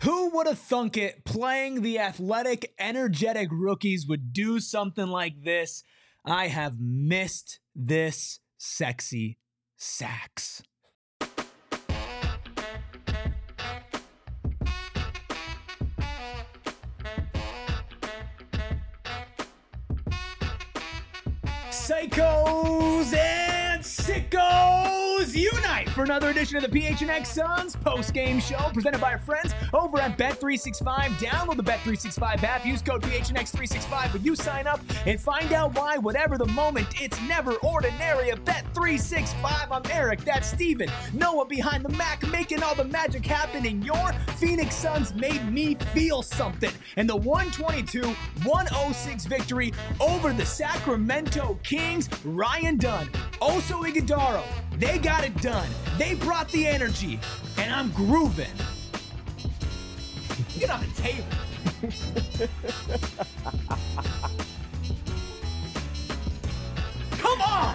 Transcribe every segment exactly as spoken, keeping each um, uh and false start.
Who would have thunk it playing the athletic, energetic rookies would do something like this? I have missed this sexy sax. Psychos and sickos unite for another edition of the P H N X Suns post-game show presented by our friends over at Bet three sixty-five. Download the Bet three sixty-five app. Use code P H N X three sixty-five when you sign up and find out why, whatever the moment, it's never ordinary at Bet three sixty-five. I'm Eric, that's Steven. Noah behind the Mac, making all the magic happen, and your Phoenix Suns made me feel something. And the one twenty-two one oh six victory over the Sacramento Kings, Ryan Dunn, Oso Ighodaro, they got it done. They brought the energy, and I'm grooving. Get on the table. Come on!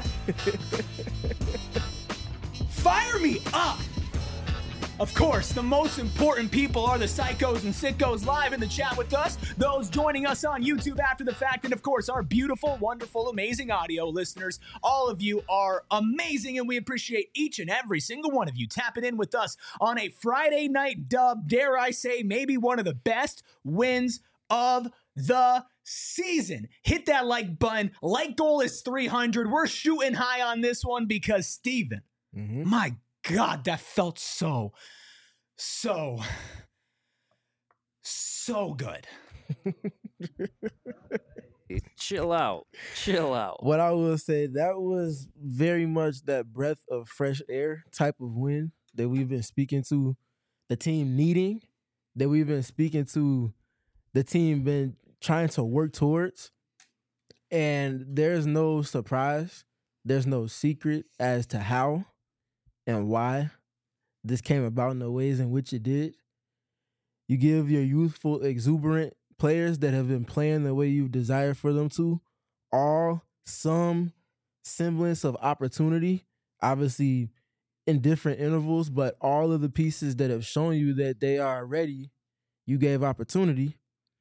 Fire me up! Of course, the most important people are the Psychos and Sickos live in the chat with us, those joining us on YouTube after the fact, and of course, our beautiful, wonderful, amazing audio listeners. All of you are amazing, and we appreciate each and every single one of you tapping in with us on a Friday night dub, dare I say, maybe one of the best wins of the season. Hit that like button. Like goal is three hundred. We're shooting high on this one because, Steven, mm-hmm. my God, that felt so, so, so good. Chill out. Chill out. What I will say, that was very much that breath of fresh air type of win that we've been speaking to the team needing, that we've been speaking to the team been trying to work towards. And there's no surprise. There's no secret as to how and why this came about in the ways in which it did. You give your youthful, exuberant players that have been playing the way you desire for them to all some semblance of opportunity, obviously in different intervals, but all of the pieces that have shown you that they are ready, you gave opportunity,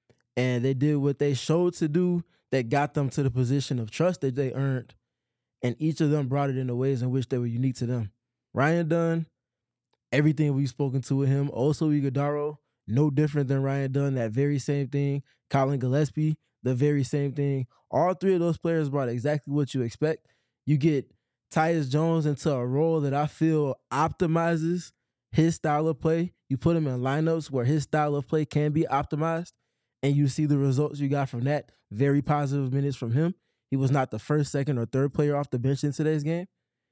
and they did what they showed to do that got them to the position of trust that they earned, and each of them brought it in the ways in which they were unique to them. Ryan Dunn, everything we've spoken to with him. Oso Ighodaro, no different than Ryan Dunn, that very same thing. Colin Gillespie, the very same thing. All three of those players brought exactly what you expect. You get Tyus Jones into a role that I feel optimizes his style of play. You put him in lineups where his style of play can be optimized, and you see the results you got from that. Very positive minutes from him. He was not the first, second, or third player off the bench in today's game,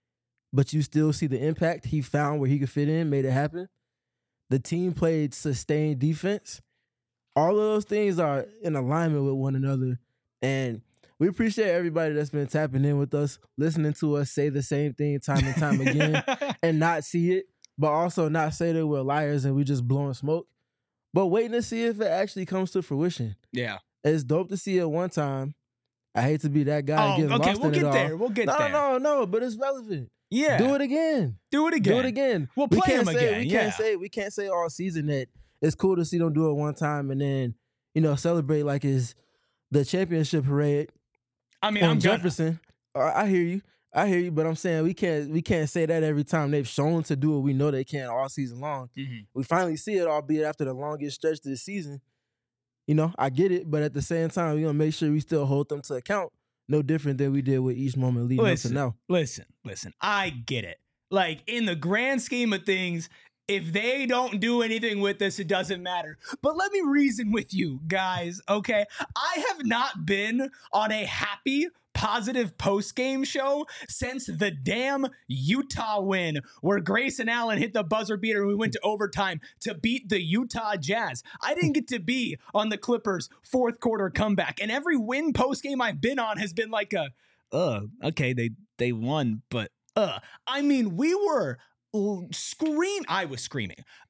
but you still see the impact. He found where he could fit in, made it happen. The team played sustained defense. All of those things are in alignment with one another. And we appreciate everybody that's been tapping in with us, listening to us say the same thing time and time again and not see it, but also not say that we're liars and we just blowing smoke, but waiting to see if it actually comes to fruition. Yeah. It's dope to see it one time. I hate to be that guy oh, getting okay, lost we'll in get it all. there. We'll get no, there. No, no, no, but it's relevant. Yeah. Do it again. Do it again. Do it again. We'll we play can't him say, again. We yeah. can't say we can't say all season that it's cool to see them do it one time and then, you know, celebrate like it's the championship parade. I mean, on I'm Jefferson. Gonna... I hear you. I hear you, but I'm saying we can't we can't say that every time. They've shown to do what we know they can all season long. Mm-hmm. We finally see it, albeit after the longest stretch this season. You know, I get it, but at the same time, we're gonna make sure we still hold them to account. No different than we did with each moment leading listen, up to now. Listen, listen, I get it. Like, in the grand scheme of things, if they don't do anything with this, it doesn't matter. But let me reason with you guys, okay? I have not been on a happy, positive post-game show since the damn Utah win, where Grayson Allen hit the buzzer beater and we went to overtime to beat the Utah Jazz. I didn't get to be on the Clippers' fourth quarter comeback, and every win post-game I've been on has been like a, uh, okay, they, they won, but uh, I mean, we were scream. I was screaming.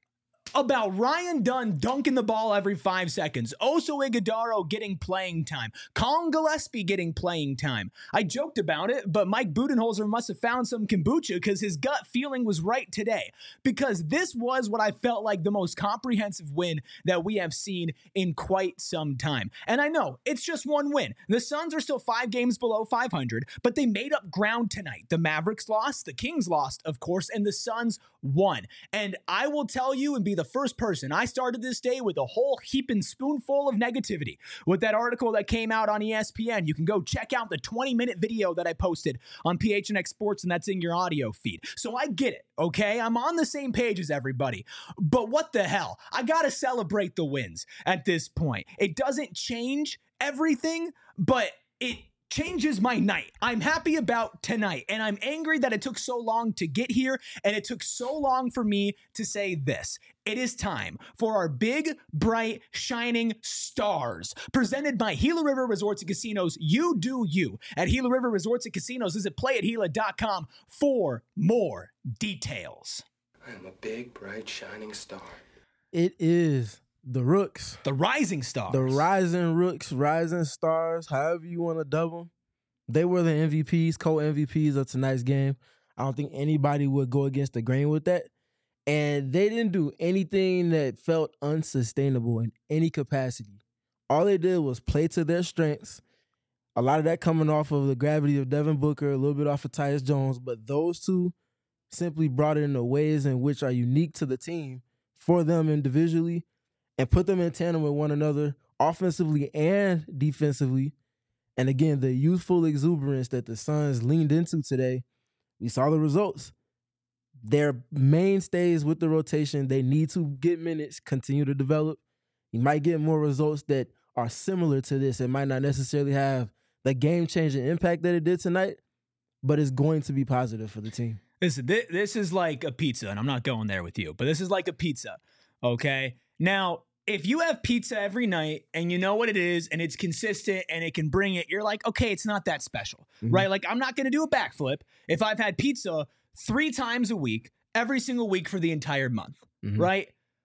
about Ryan Dunn dunking the ball every five seconds, Oso Ighodaro getting playing time, Colin Gillespie getting playing time. I joked about it, but Mike Budenholzer must have found some kombucha because his gut feeling was right today. Because this was what I felt like the most comprehensive win that we have seen in quite some time. And I know it's just one win. The Suns are still five games below five hundred, but they made up ground tonight. The Mavericks lost, the Kings lost, of course, and the Suns won. And I will tell you and be the first person, I started this day with a whole heap and spoonful of negativity with that article that came out on E S P N. You can go check out the twenty minute video that I posted on P H N X Sports, and that's in your audio feed. So I get it, okay? I'm on the same page as everybody. But what the hell? I gotta celebrate the wins at this point. It doesn't change everything, but it changes my night. I'm happy about tonight, and I'm angry that it took so long to get here, and it took so long for me to say this. It is time for our big, bright, shining stars, presented by Gila River Resorts and Casinos. You do you at Gila River Resorts and Casinos. Visit play at gila dot com for more details. I am a big, bright, shining star. It is the Rooks. The rising stars. The rising Rooks, rising stars, however you want to dub them. They were the M V Ps, co-M V Ps of tonight's game. I don't think anybody would go against the grain with that. And they didn't do anything that felt unsustainable in any capacity. All they did was play to their strengths. A lot of that coming off of the gravity of Devin Booker, a little bit off of Tyus Jones, but those two simply brought it in the ways in which are unique to the team for them individually and put them in tandem with one another offensively and defensively. And again, the youthful exuberance that the Suns leaned into today, we saw the results. They're mainstays with the rotation. They need to get minutes, continue to develop. You might get more results that are similar to this. It might not necessarily have the game-changing impact that it did tonight, but it's going to be positive for the team. Listen, th- this is like a pizza, and I'm not going there with you, but this is like a pizza, okay? Now, if you have pizza every night and you know what it is and it's consistent and it can bring it, you're like, okay, it's not that special, mm-hmm. right? Like, I'm not going to do a backflip if I've had pizza three times a week, every single week for the entire month, mm-hmm. right?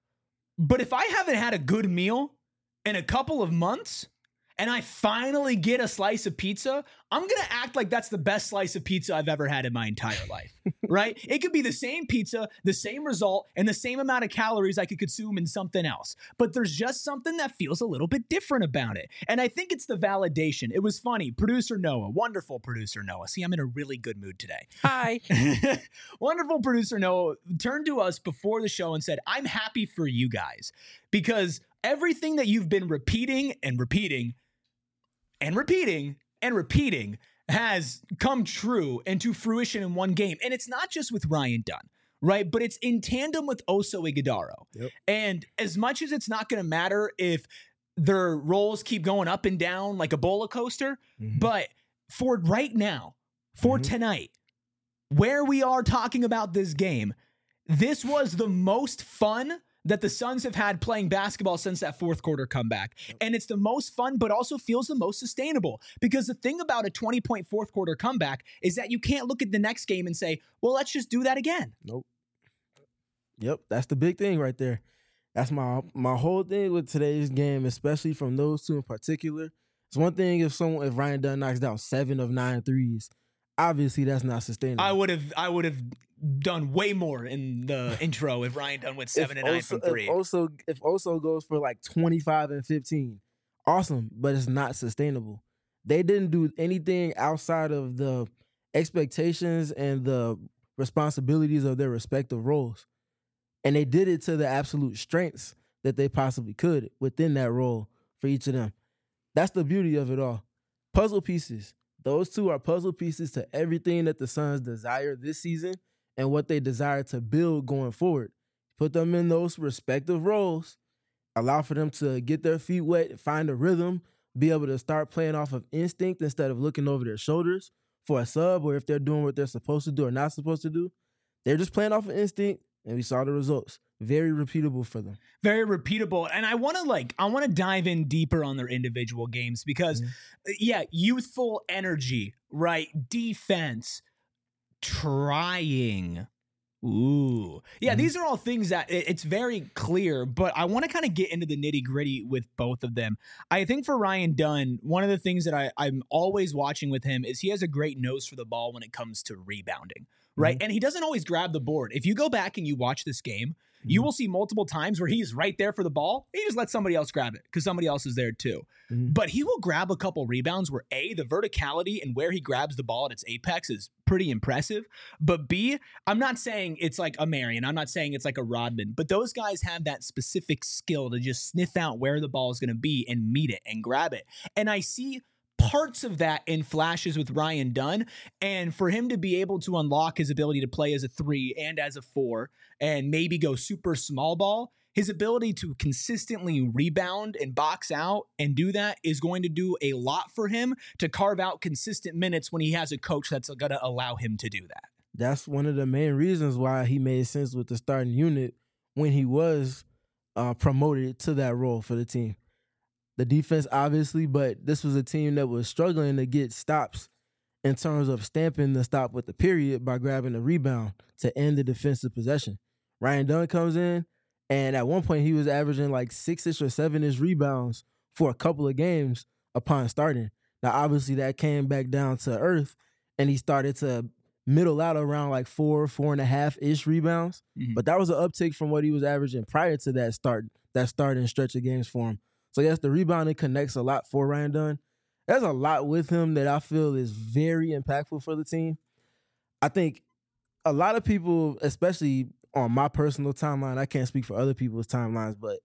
But if I haven't had a good meal in a couple of months and I finally get a slice of pizza, I'm going to act like that's the best slice of pizza I've ever had in my entire life, right? It could be the same pizza, the same result, and the same amount of calories I could consume in something else. But there's just something that feels a little bit different about it. And I think it's the validation. It was funny. Producer Noah, wonderful producer Noah. See, I'm in a really good mood today. Hi. Wonderful producer Noah turned to us before the show and said, I'm happy for you guys because everything that you've been repeating and repeating and repeating and repeating has come true and to fruition in one game. And it's not just with Ryan Dunn, right? But it's in tandem with Oso Ighodaro. Yep. And as much as it's not going to matter if their roles keep going up and down like a bola coaster, mm-hmm. but for right now, for mm-hmm. tonight, where we are talking about this game, this was the most fun that the Suns have had playing basketball since that fourth quarter comeback. And it's the most fun, but also feels the most sustainable. Because the thing about a twenty-point fourth quarter comeback is that you can't look at the next game and say, well, let's just do that again. Nope. Yep, that's the big thing right there. That's my my whole thing with today's game, especially from those two in particular. It's one thing if someone if Ryan Dunn knocks down seven of nine threes. Obviously, that's not sustainable. I would have I would have done way more in the intro if Ryan Dunn went seven and nine from three. If Oso, if Oso goes for like twenty-five and fifteen, awesome, but it's not sustainable. They didn't do anything outside of the expectations and the responsibilities of their respective roles. And they did it to the absolute strengths that they possibly could within that role for each of them. That's the beauty of it all. Puzzle pieces. Those two are puzzle pieces to everything that the Suns desire this season and what they desire to build going forward. Put them in those respective roles, allow for them to get their feet wet, find a rhythm, be able to start playing off of instinct instead of looking over their shoulders for a sub, or if they're doing what they're supposed to do or not supposed to do. They're just playing off of instinct, and we saw the results. Very repeatable for them. Very repeatable. And I want to like, I want to dive in deeper on their individual games because, mm-hmm. yeah, youthful energy, right? Defense, trying, Ooh. Yeah, Mhm. these are all things that it- it's very clear, but I want to kind of get into the nitty gritty with both of them. I think for Ryan Dunn, one of the things that I, I'm always watching with him is he has a great nose for the ball when it comes to rebounding, right? Mhm. And he doesn't always grab the board. If you go back and you watch this game, you Mhm. will see multiple times where he's right there for the ball. He just lets somebody else grab it because somebody else is there too. Mhm. But he will grab a couple rebounds where A, the verticality and where he grabs the ball at its apex is pretty impressive. But B, I'm not saying it's like a Marion. I'm not saying it's like a Rodman. But those guys have that specific skill to just sniff out where the ball is going to be and meet it and grab it. And I see parts of that in flashes with Ryan Dunn. And for him to be able to unlock his ability to play as a three and as a four and maybe go super small ball, his ability to consistently rebound and box out and do that is going to do a lot for him to carve out consistent minutes when he has a coach that's going to allow him to do that. That's one of the main reasons why he made sense with the starting unit when he was uh, promoted to that role for the team. The defense, obviously, but this was a team that was struggling to get stops in terms of stamping the stop with the period by grabbing the rebound to end the defensive possession. Ryan Dunn comes in, and at one point he was averaging like six-ish or seven-ish rebounds for a couple of games upon starting. Now, obviously, that came back down to earth, and he started to middle out around like four, four and a half-ish rebounds. Mhm. But that was an uptick from what he was averaging prior to that start, that starting stretch of games for him. So, yes, the rebounding connects a lot for Ryan Dunn. There's a lot with him that I feel is very impactful for the team. I think a lot of people, especially on my personal timeline, I can't speak for other people's timelines, but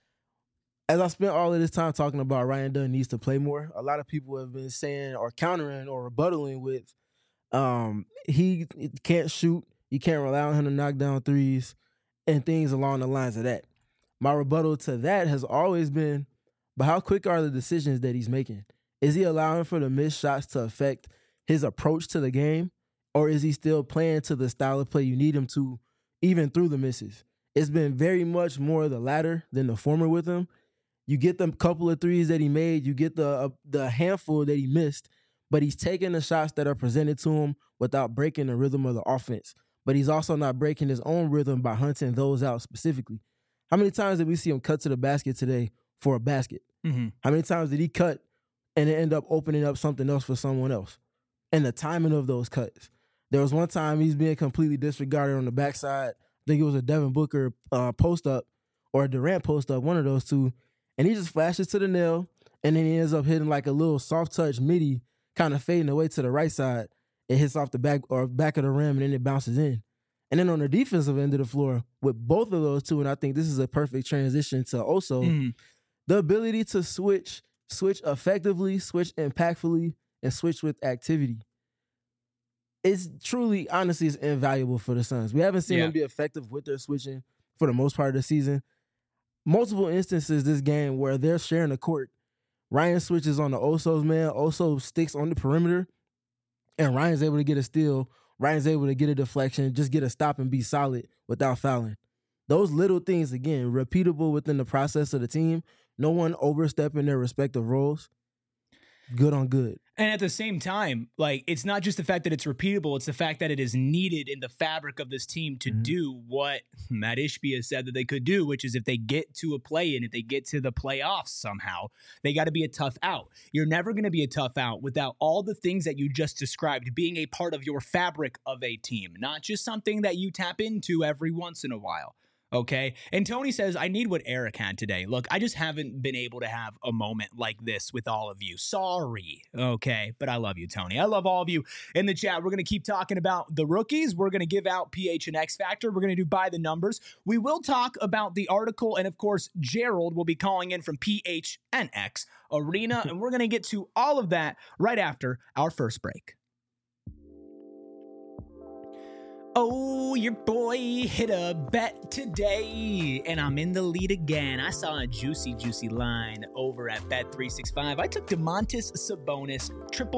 as I spent all of this time talking about Ryan Dunn needs to play more, a lot of people have been saying or countering or rebuttaling with um, he can't shoot, you can't rely on him to knock down threes, and things along the lines of that. My rebuttal to that has always been, but how quick are the decisions that he's making? Is he allowing for the missed shots to affect his approach to the game? Or is he still playing to the style of play you need him to, even through the misses? It's been very much more the latter than the former with him. You get the couple of threes that he made, you get the uh, the handful that he missed, but he's taking the shots that are presented to him without breaking the rhythm of the offense. But he's also not breaking his own rhythm by hunting those out specifically. How many times did we see him cut to the basket today for a basket? Mm-hmm. How many times did he cut and it end up opening up something else for someone else? And the timing of those cuts. There was one time he's being completely disregarded on the backside. I think it was a Devin Booker uh, post-up or a Durant post-up, one of those two. And he just flashes to the nail, and then he ends up hitting like a little soft-touch midi, kind of fading away to the right side. It hits off the back or back of the rim, and then it bounces in. And then on the defensive end of the floor, with both of those two, and I think this is a perfect transition to also Mm-hmm. the ability to switch, switch effectively, switch impactfully, and switch with activity. It's truly, honestly, it's invaluable for the Suns. We haven't seen Yeah. them be effective with their switching for the most part of the season. Multiple instances this game where they're sharing the court. Ryan switches on the Oso's man. Oso sticks on the perimeter, and Ryan's able to get a steal. Ryan's able to get a deflection, just get a stop and be solid without fouling. Those little things, again, repeatable within the process of the team. No one overstepping their respective roles. Good on good. And at the same time, like, it's not just the fact that it's repeatable, it's the fact that it is needed in the fabric of this team to Mhm. do what Matt Ishbia said that they could do, which is if they get to a play and if they get to the playoffs somehow, they got to be a tough out. You're never going to be a tough out without all the things that you just described being a part of your fabric of a team, not just something that you tap into every once in a while. Okay. And Tony says, I need what Eric had today. Look, I just haven't been able to have a moment like this with all of you. Sorry. Okay. But I love you, Tony. I love all of you in the chat. We're going to keep talking about the rookies. We're going to give out P H and X Factor. We're going to do by the numbers. We will talk about the article. And of course, Gerald will be calling in from P H and X Arena. And we're going to get to all of that right after our first break. Oh, your boy hit a bet today, and I'm in the lead again. I saw a juicy, juicy line over at Bet three sixty-five. I took Domantas Sabonis triple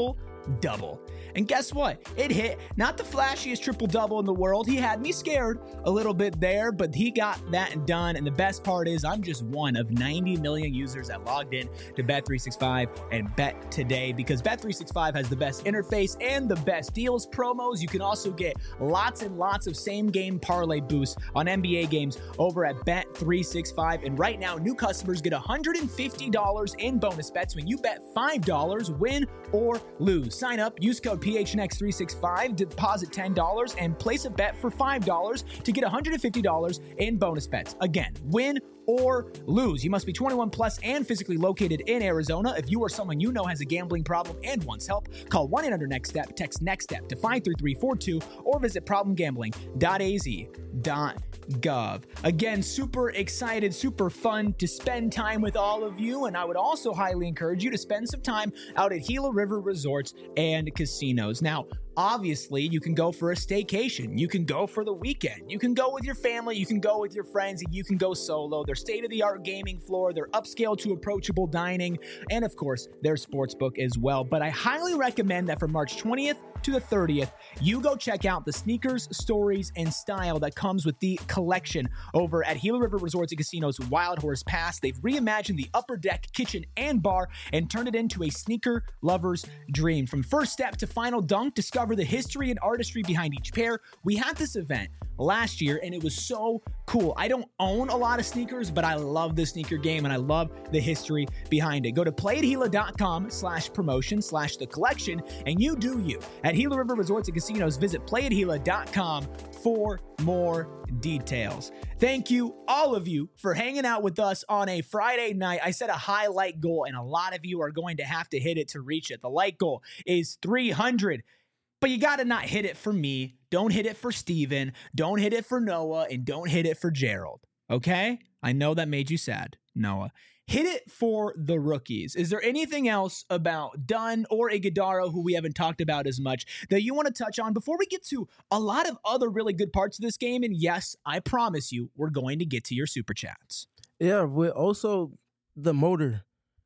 double. And guess what? It hit. Not the flashiest triple-double in the world. He had me scared a little bit there, but he got that done. And the best part is I'm just one of ninety million users that logged in to Bet three sixty-five and bet today, because Bet three sixty-five has the best interface and the best deals, promos. You can also get lots and lots of same-game parlay boosts on N B A games over at Bet three sixty-five. And right now, new customers get one hundred fifty dollars in bonus bets when you bet five dollars, win or lose. Sign up, use code P H N X three sixty-five, deposit ten dollars, and place a bet for five dollars to get one hundred fifty dollars in bonus bets. Again, win or lose. You must be twenty-one plus and physically located in Arizona. If you or someone you know has a gambling problem and wants help, call one eight hundred next step, text NEXTSTEP to five three three four two, or visit problem gambling dot a z dot gov. Again, super excited, super fun to spend time with all of you, and I would also highly encourage you to spend some time out at Gila River Resorts and Casinos. Now, obviously, you can go for a staycation. You can go for the weekend. You can go with your family. You can go with your friends, and you can go solo. Their state-of-the-art gaming floor, their upscale to approachable dining, and of course, their sportsbook as well. But I highly recommend that from March twentieth to the thirtieth, you go check out the sneakers, stories, and style that comes with the collection over at Gila River Resorts and Casinos Wild Horse Pass. They've reimagined the upper deck, kitchen, and bar and turned it into a sneaker lover's dream. From first step to final dunk, discover the history and artistry behind each pair. We had this event last year, and it was so cool. I don't own a lot of sneakers, but I love the sneaker game, and I love the history behind it. Go to playatgila.com slash promotion slash the collection, and you do you. At Gila River Resorts and Casinos, visit playatgila dot com for more details. Thank you, all of you, for hanging out with us on a Friday night. I set a high like goal, and a lot of you are going to have to hit it to reach it. The like goal is three hundred. But you got to not hit it for me. Don't hit it for Steven. Don't hit it for Noah. And don't hit it for Gerald. Okay? I know that made you sad, Noah. Hit it for the rookies. Is there anything else about Dunn or Iguodala, who we haven't talked about as much, that you want to touch on before we get to a lot of other really good parts of this game? And yes, I promise you, we're going to get to your super chats. Yeah, with also the motor.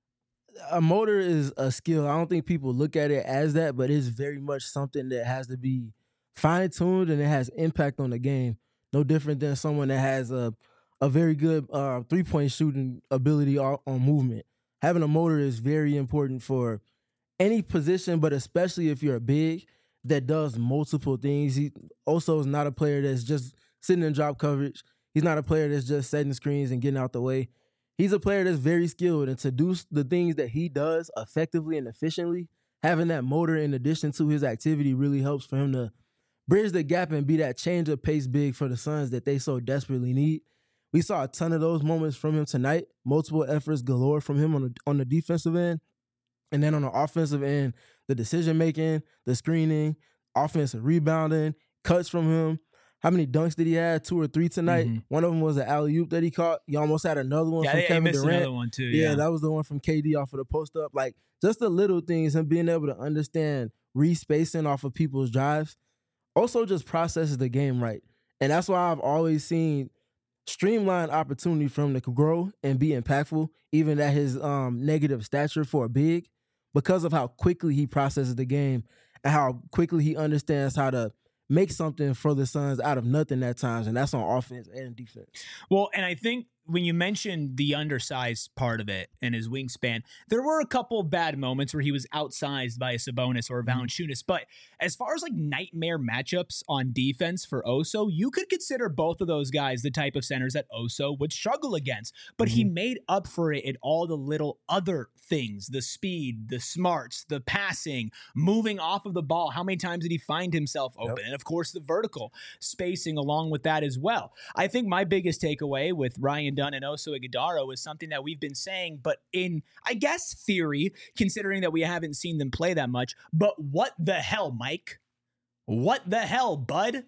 A motor is a skill. I don't think people look at it as that, but it's very much something that has to be fine-tuned, and it has impact on the game. No different than someone that has a a very good uh, three-point shooting ability on, on movement. Having a motor is very important for any position, but especially if you're a big that does multiple things. He also is not a player that's just sitting in drop coverage. He's not a player that's just setting screens and getting out the way. He's a player that's very skilled, and to do the things that he does effectively and efficiently, having that motor in addition to his activity really helps for him to bridge the gap and be that change of pace big for the Suns that they so desperately need. We saw a ton of those moments from him tonight, multiple efforts galore from him on the, on the defensive end. And then on the offensive end, the decision-making, the screening, offensive rebounding, cuts from him. How many dunks did he have? Two or three tonight? Mm-hmm. One of them was an alley-oop that he caught. He almost had another one yeah, from yeah, Kevin he missed Durant. Another one too, yeah. yeah, that was the one from K D off of the post-up. Like, just the little things and being able to understand re-spacing off of people's drives. Also just processes the game right. And that's why I've always seen streamlined opportunity for him to grow and be impactful, even at his um, negative stature for a big, because of how quickly he processes the game and how quickly he understands how to make something for the Suns out of nothing at times, and that's on offense and defense. Well, and I think when you mentioned the undersized part of it and his wingspan, there were a couple of bad moments where he was outsized by a Sabonis or a Valanciunas. But as far as like nightmare matchups on defense for Oso, you could consider both of those guys the type of centers that Oso would struggle against. But mm-hmm. he made up for it in all the little other things, the speed, the smarts, the passing, moving off of the ball. How many times did he find himself open? Yep. And of course, the vertical spacing along with that as well. I think my biggest takeaway with Ryan Dunn and Oso Iguodala is something that we've been saying, but in, I guess, theory, considering that we haven't seen them play that much. But what the hell, Mike? What the hell, bud?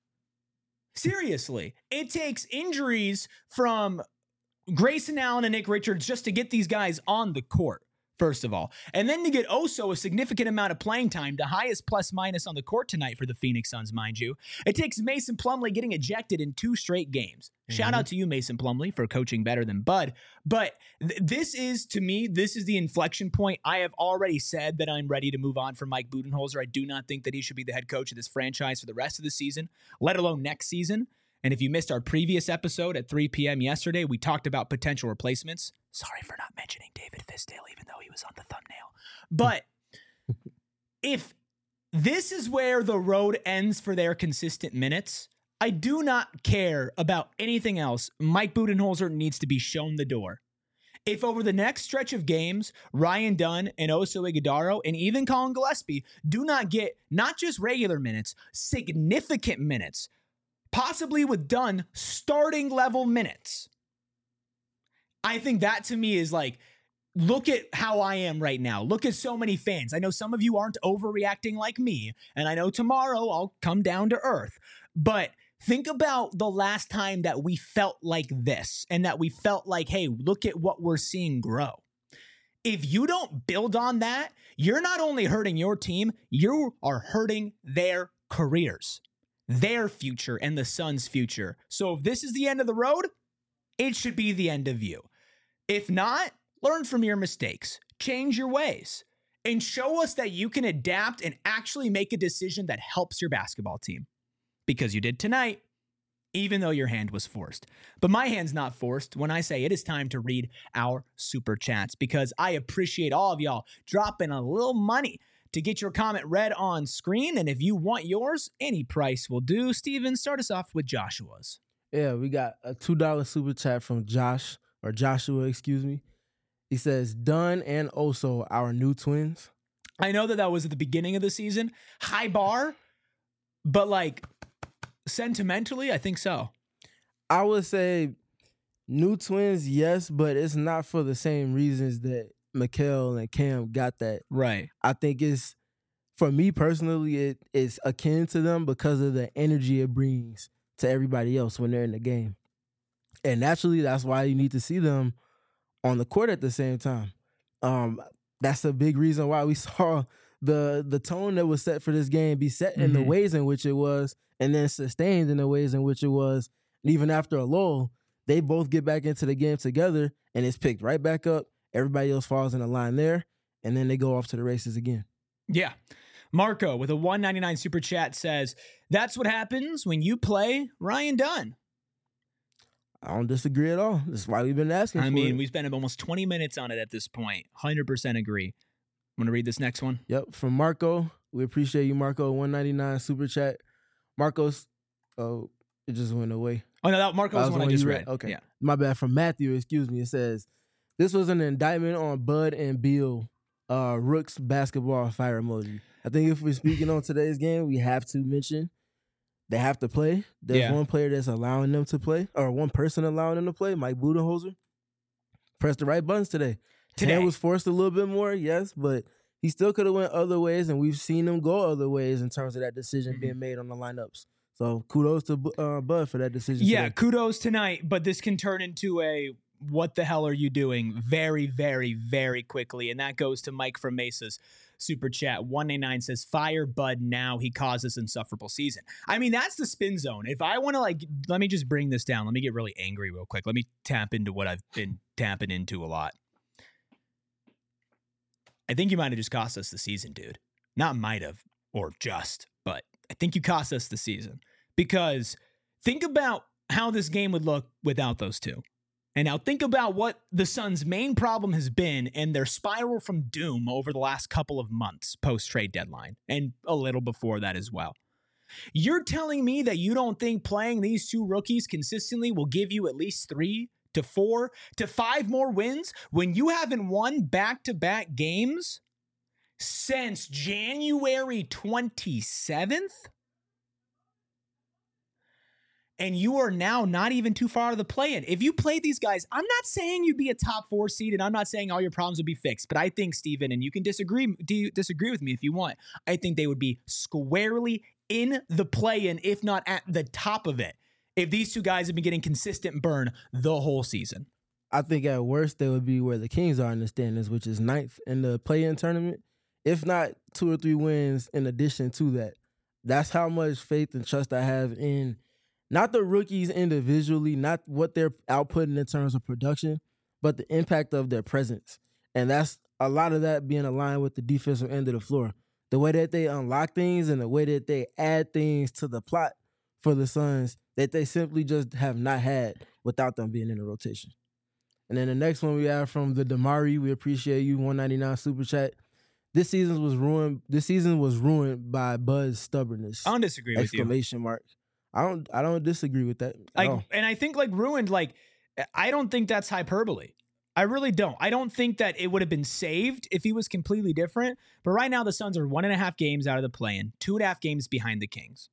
Seriously, it takes injuries from Grayson Allen and Nick Richards just to get these guys on the court first of all. And then to get also a significant amount of playing time, the highest plus minus on the court tonight for the Phoenix Suns, mind you. It takes Mason Plumlee getting ejected in two straight games. Mm-hmm. Shout out to you, Mason Plumlee, for coaching better than Bud. But th- this is, to me, this is the inflection point. I have already said that I'm ready to move on from Mike Budenholzer. I do not think that he should be the head coach of this franchise for the rest of the season, let alone next season. And if you missed our previous episode at three p.m. yesterday, we talked about potential replacements. Sorry for not mentioning David Fisdale, even though he was on the thumbnail. But if this is where the road ends for their consistent minutes, I do not care about anything else. Mike Budenholzer needs to be shown the door. If over the next stretch of games, Ryan Dunn and Oso Ighodaro and even Colin Gillespie do not get not just regular minutes, significant minutes, possibly with Dunn starting level minutes, I think that to me is like, look at how I am right now. Look at so many fans. I know some of you aren't overreacting like me, and I know tomorrow I'll come down to earth. But think about the last time that we felt like this and that we felt like, hey, look at what we're seeing grow. If you don't build on that, you're not only hurting your team, you are hurting their careers, their future, and the Suns' future. So if this is the end of the road, it should be the end of you. If not, learn from your mistakes, change your ways, and show us that you can adapt and actually make a decision that helps your basketball team. Because you did tonight, even though your hand was forced. But my hand's not forced when I say it is time to read our super chats, because I appreciate all of y'all dropping a little money to get your comment read on screen. And if you want yours, any price will do. Steven, start us off with Joshua's. Yeah, we got a two dollars super chat from Josh, or Joshua, excuse me. He says, Dunn and Oso, our new twins. I know that that was at the beginning of the season. High bar, but like sentimentally, I think so. I would say new twins, yes, but it's not for the same reasons that Mikal and Cam got that. Right. I think it's, for me personally, it is akin to them because of the energy it brings to everybody else when they're in the game. And naturally, that's why you need to see them on the court at the same time. Um, that's a big reason why we saw the the tone that was set for this game be set in mm-hmm. the ways in which it was, and then sustained in the ways in which it was. And even after a lull, they both get back into the game together, and it's picked right back up. Everybody else falls in the line there, and then they go off to the races again. Yeah. Marco with a one ninety-nine super chat says, that's what happens when you play Ryan Dunn. I don't disagree at all. That's why we've been asking I for mean, it. we spent almost twenty minutes on it at this point. one hundred percent agree. Want to read this next one? Yep, from Marco. We appreciate you, Marco. one ninety-nine super chat. Marco's, oh, it just went away. Oh, no, that Marco was the one I just read. read. Okay. Yeah. My bad. From Matthew, excuse me. It says, this was an indictment on Bud and Beal, uh, Rook's basketball fire emoji. I think if we're speaking on today's game, we have to mention they have to play. There's yeah. one player that's allowing them to play, or one person allowing them to play, Mike Budenholzer. Pressed the right buttons today. Today. Hand was forced a little bit more, yes, but he still could have went other ways, and we've seen him go other ways in terms of that decision mm-hmm. being made on the lineups. So kudos to uh, Bud for that decision. Yeah, today. kudos tonight, but this can turn into a what the hell are you doing very, very, very quickly, and that goes to Mike from Mesa's super chat. one ninety-nine says, fire Bud now. He caused this insufferable season. I mean, that's the spin zone. If I want to, like, let me just bring this down. Let me get really angry real quick. Let me tap into what I've been tapping into a lot. I think you might have just cost us the season, dude. Not might have, or just, but I think you cost us the season. Because think about how this game would look without those two. And now think about what the Suns' main problem has been and their spiral from doom over the last couple of months post-trade deadline, and a little before that as well. You're telling me that you don't think playing these two rookies consistently will give you at least three to four to five more wins when you haven't won back-to-back games since January twenty-seventh? And you are now not even too far out of the play-in. If you played these guys, I'm not saying you'd be a top four seed, and I'm not saying all your problems would be fixed, but I think, Steven, and you can disagree disagree with me if you want, I think they would be squarely in the play-in, if not at the top of it, if these two guys have been getting consistent burn the whole season. I think at worst they would be where the Kings are in the standings, which is ninth in the play-in tournament. If not two or three wins in addition to that. That's how much faith and trust I have in not the rookies individually, not what they're outputting in terms of production, but the impact of their presence. And that's a lot of that being aligned with the defensive end of the floor. The way that they unlock things and the way that they add things to the plot for the Suns that they simply just have not had without them being in the rotation. And then the next one we have from the Damari, we appreciate you, one ninety-nine Super Chat. This season was ruined. This season was ruined by Bud's stubbornness. I don't disagree with you. Exclamation mark. I don't. I don't disagree with that. Like, all. and I think like ruined. Like, I don't think that's hyperbole. I really don't. I don't think that it would have been saved if he was completely different. But right now, the Suns are one and a half games out of the play-in, two and a half games behind the Kings.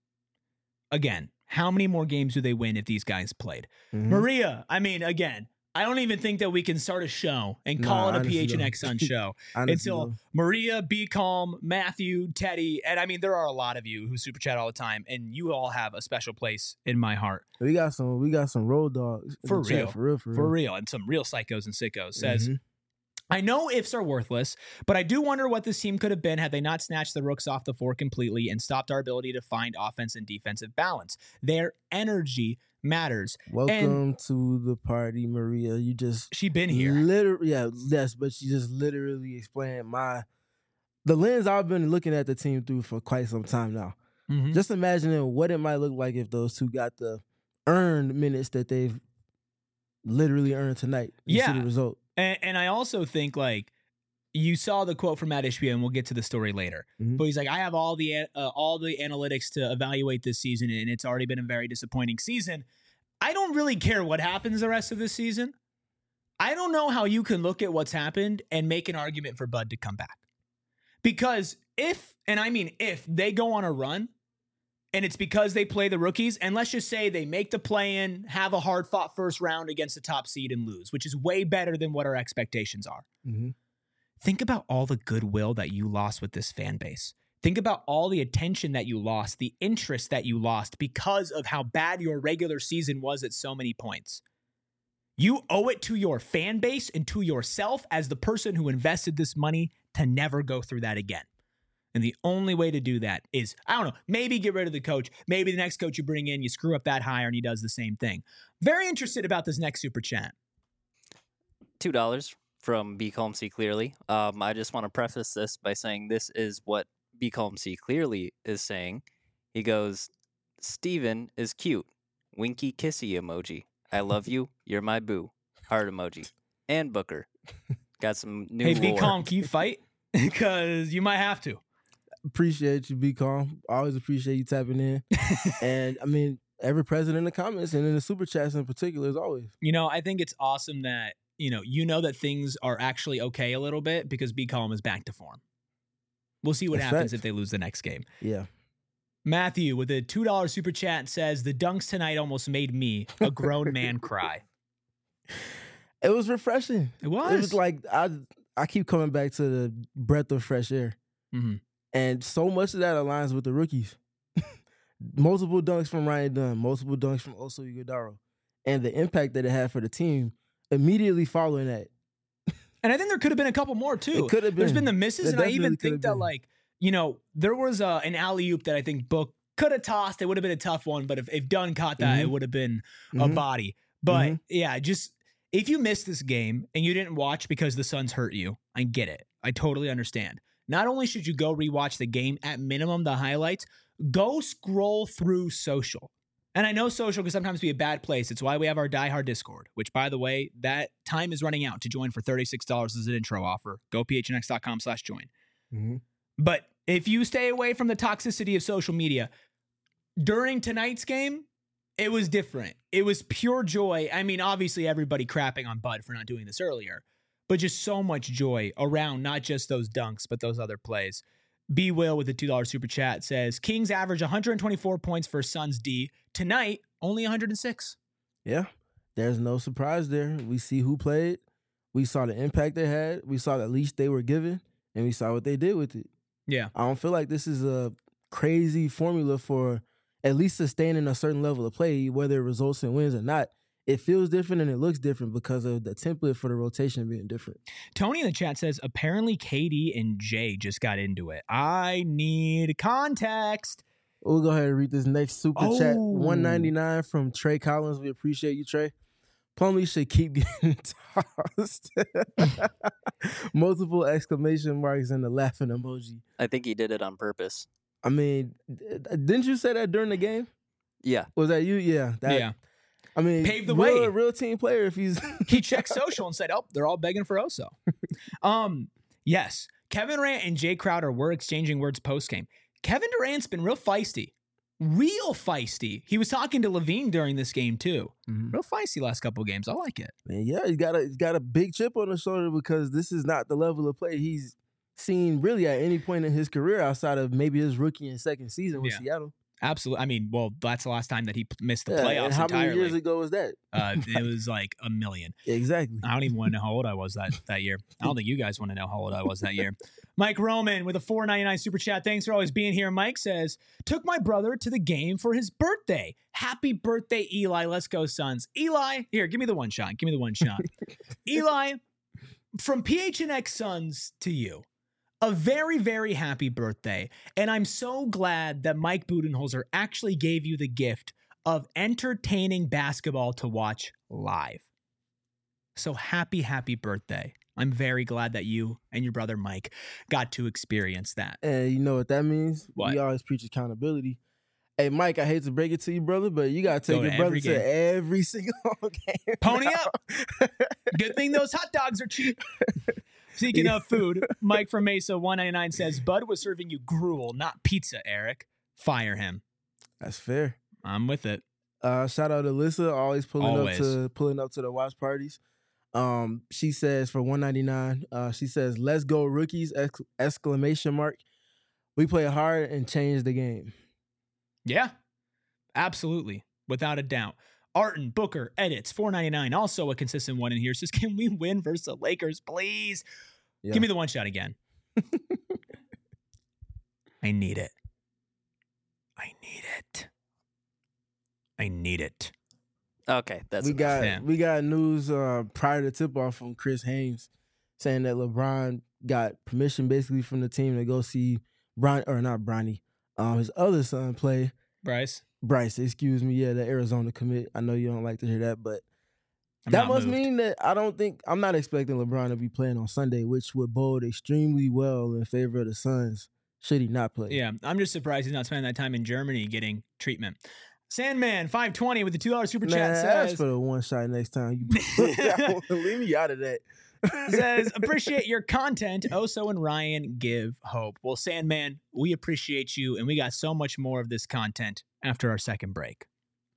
Again, how many more games do they win if these guys played? Mm-hmm. Maria, I mean, again, I don't even think that we can start a show and call nah, it a P H N X Sun show until though. Maria, Be Calm, Matthew, Teddy, and I mean, there are a lot of you who super chat all the time, and you all have a special place in my heart. We got some, we got some road dogs for real, chat, for real, for real, for real, and some real psychos and sickos. Says, mm-hmm. I know ifs are worthless, but I do wonder what this team could have been had they not snatched the rooks off the floor completely and stopped our ability to find offense and defensive balance. Their energy matters. Welcome and to the party, Maria. You just she been here, literally, yeah, yes, but she just literally explained my the lens I've been looking at the team through for quite some time now. Mm-hmm. Just imagining what it might look like if those two got the earned minutes that they've literally earned tonight. You yeah, see the result. And, and I also think like you saw the quote from Matt Ishbia, and we'll get to the story later. Mm-hmm. But he's like, I have all the uh, all the analytics to evaluate this season, and it's already been a very disappointing season. I don't really care what happens the rest of this season. I don't know how you can look at what's happened and make an argument for Bud to come back. Because if, and I mean if, they go on a run, and it's because they play the rookies, and let's just say they make the play-in, have a hard-fought first round against the top seed and lose, which is way better than what our expectations are. Mm-hmm. Think about all the goodwill that you lost with this fan base. Think about all the attention that you lost, the interest that you lost because of how bad your regular season was at so many points. You owe it to your fan base and to yourself as the person who invested this money to never go through that again. And the only way to do that is, I don't know, maybe get rid of the coach. Maybe the next coach you bring in, you screw up that hire and he does the same thing. Very interested about this next super chat. two dollars from Be Calm See Clearly. Um, I just want to preface this by saying this is what Be Calm See Clearly is saying. He goes, Steven is cute. Winky kissy emoji. I love you. You're my boo. Heart emoji. And Booker. Got some new Hey, Be lore. Calm, can you fight? Because you might have to. Appreciate you, Be Calm. Always appreciate you tapping in. And I mean, every present in the comments and in the super chats in particular, as always. You know, I think it's awesome that, you know, you know that things are actually okay a little bit because Be Calm is back to form. We'll see what That's happens fact. if they lose the next game. Yeah. Matthew with a two dollars super chat says, the dunks tonight almost made me, a grown man, cry. It was refreshing. It was. It was like, I I keep coming back to the breath of fresh air. Mm-hmm. And so much of that aligns with the rookies. Multiple dunks from Ryan Dunn, multiple dunks from Oso Ighodaro. And the impact that it had for the team immediately following that. And I think there could have been a couple more, too. It could have been. There's been the misses, It and I even definitely could think have that, been. like, you know, there was uh, an alley-oop that I think Book could have tossed. It would have been a tough one, but if, if Dunn caught that, Mm-hmm. it would have been a Mhm. body. But, Mhm. yeah, just if you missed this game and you didn't watch because the Suns hurt you, I get it. I totally understand. Not only should you go rewatch the game, at minimum, the highlights, go scroll through social. And I know social can sometimes be a bad place. It's why we have our Die Hard Discord, which, by the way, that time is running out to join for thirty-six dollars as an intro offer. Go phnx.com slash join. Mm-hmm. But if you stay away from the toxicity of social media, during tonight's game, it was different. It was pure joy. I mean, obviously, everybody crapping on Bud for not doing this earlier, but just so much joy around not just those dunks, but those other plays. B. Will with the two dollars super chat says, Kings average one hundred twenty-four points for Suns D. Tonight, only one hundred six. Yeah, there's no surprise there. We see who played. We saw the impact they had. We saw the leash they were given, and we saw what they did with it. Yeah. I don't feel like this is a crazy formula for at least sustaining a certain level of play, whether it results in wins or not. it feels different and it looks different because of the template for the rotation being different. Tony in the chat says, apparently K D and Jay just got into it. I need context. We'll go ahead and read this next super Oh. chat. one ninety-nine from Trey Collins. We appreciate you, Trey. Plumlee should keep getting tossed. Multiple exclamation marks and the laughing emoji. I think he did it on purpose. I mean, didn't you say that during the game? Yeah. Was that you? Yeah. That, Yeah. I mean, Paved the real, way. real team player if he's... He checked social and said, oh, they're all begging for Oso. um, yes, Kevin Durant and Jay Crowder were exchanging words post-game. Kevin Durant's been real feisty. Real feisty. He was talking to Levine during this game, too. Mhm. Real feisty last couple of games. I like it. Man, yeah, he's got a he's got a big chip on his shoulder because this is not the level of play he's seen really at any point in his career outside of maybe his rookie and second season with Yeah. Seattle. Absolutely. I mean, well, that's the last time that he p- missed the Yeah, playoffs and how entirely. many years ago was that? uh, it was like a million. Exactly. I don't even want to know how old I was that, that year. I don't think you guys want to know how old I was that year. Mike Roman with a four ninety-nine super chat. Thanks for always being here. Mike says, took my brother to the game for his birthday. Happy birthday, Eli. Let's go, Suns. Eli, here, give me the one shot. Give me the one shot. Eli, from P H N X Suns to you, a very, very happy birthday. And I'm so glad that Mike Budenholzer actually gave you the gift of entertaining basketball to watch live. So happy, happy birthday. I'm very glad that you and your brother Mike got to experience that. And you know what that means? What? We always preach accountability. Hey, Mike, I hate to break it to you, brother, but you got to take Go to your brother every to game. every single game. Pony now. up. Good thing those hot dogs are cheap. Speaking of food, Mike from Mesa one ninety-nine says, Bud was serving you gruel, not pizza, Eric. Fire him. That's fair. I'm with it. Uh, shout out to Alyssa, always pulling Always. up to pulling up to the watch parties. Um, she says for one ninety-nine, uh, she says, "Let's go rookies!" Ex- exclamation mark. We play hard and change the game. Yeah, absolutely. Without a doubt. Arton, Booker, Edits, four ninety-nine. Also a consistent one in here. Says, can we win versus the Lakers, please? Yeah. Give me the one shot again. I need it. I need it. I need it. Okay, that's we enough. got Yeah. we got news uh, prior to tip off from Chris Haynes saying that LeBron got permission basically from the team to go see Bron or not Bronny, um, his other son play. Bryce, Bryce, excuse me, yeah, the Arizona commit. I know you don't like to hear that, but I'm that not must moved. mean that I don't think I'm not expecting LeBron to be playing on Sunday, which would bode extremely well in favor of the Suns should he not play. Yeah, I'm just surprised he's not spending that time in Germany getting treatment. Sandman five twenty with the two dollar super Man, chat ask says, for the one shot next time. You leave me out of that. says, appreciate your content. Oso and Ryan give hope. Well, Sandman, we appreciate you, and we got so much more of this content after our second break.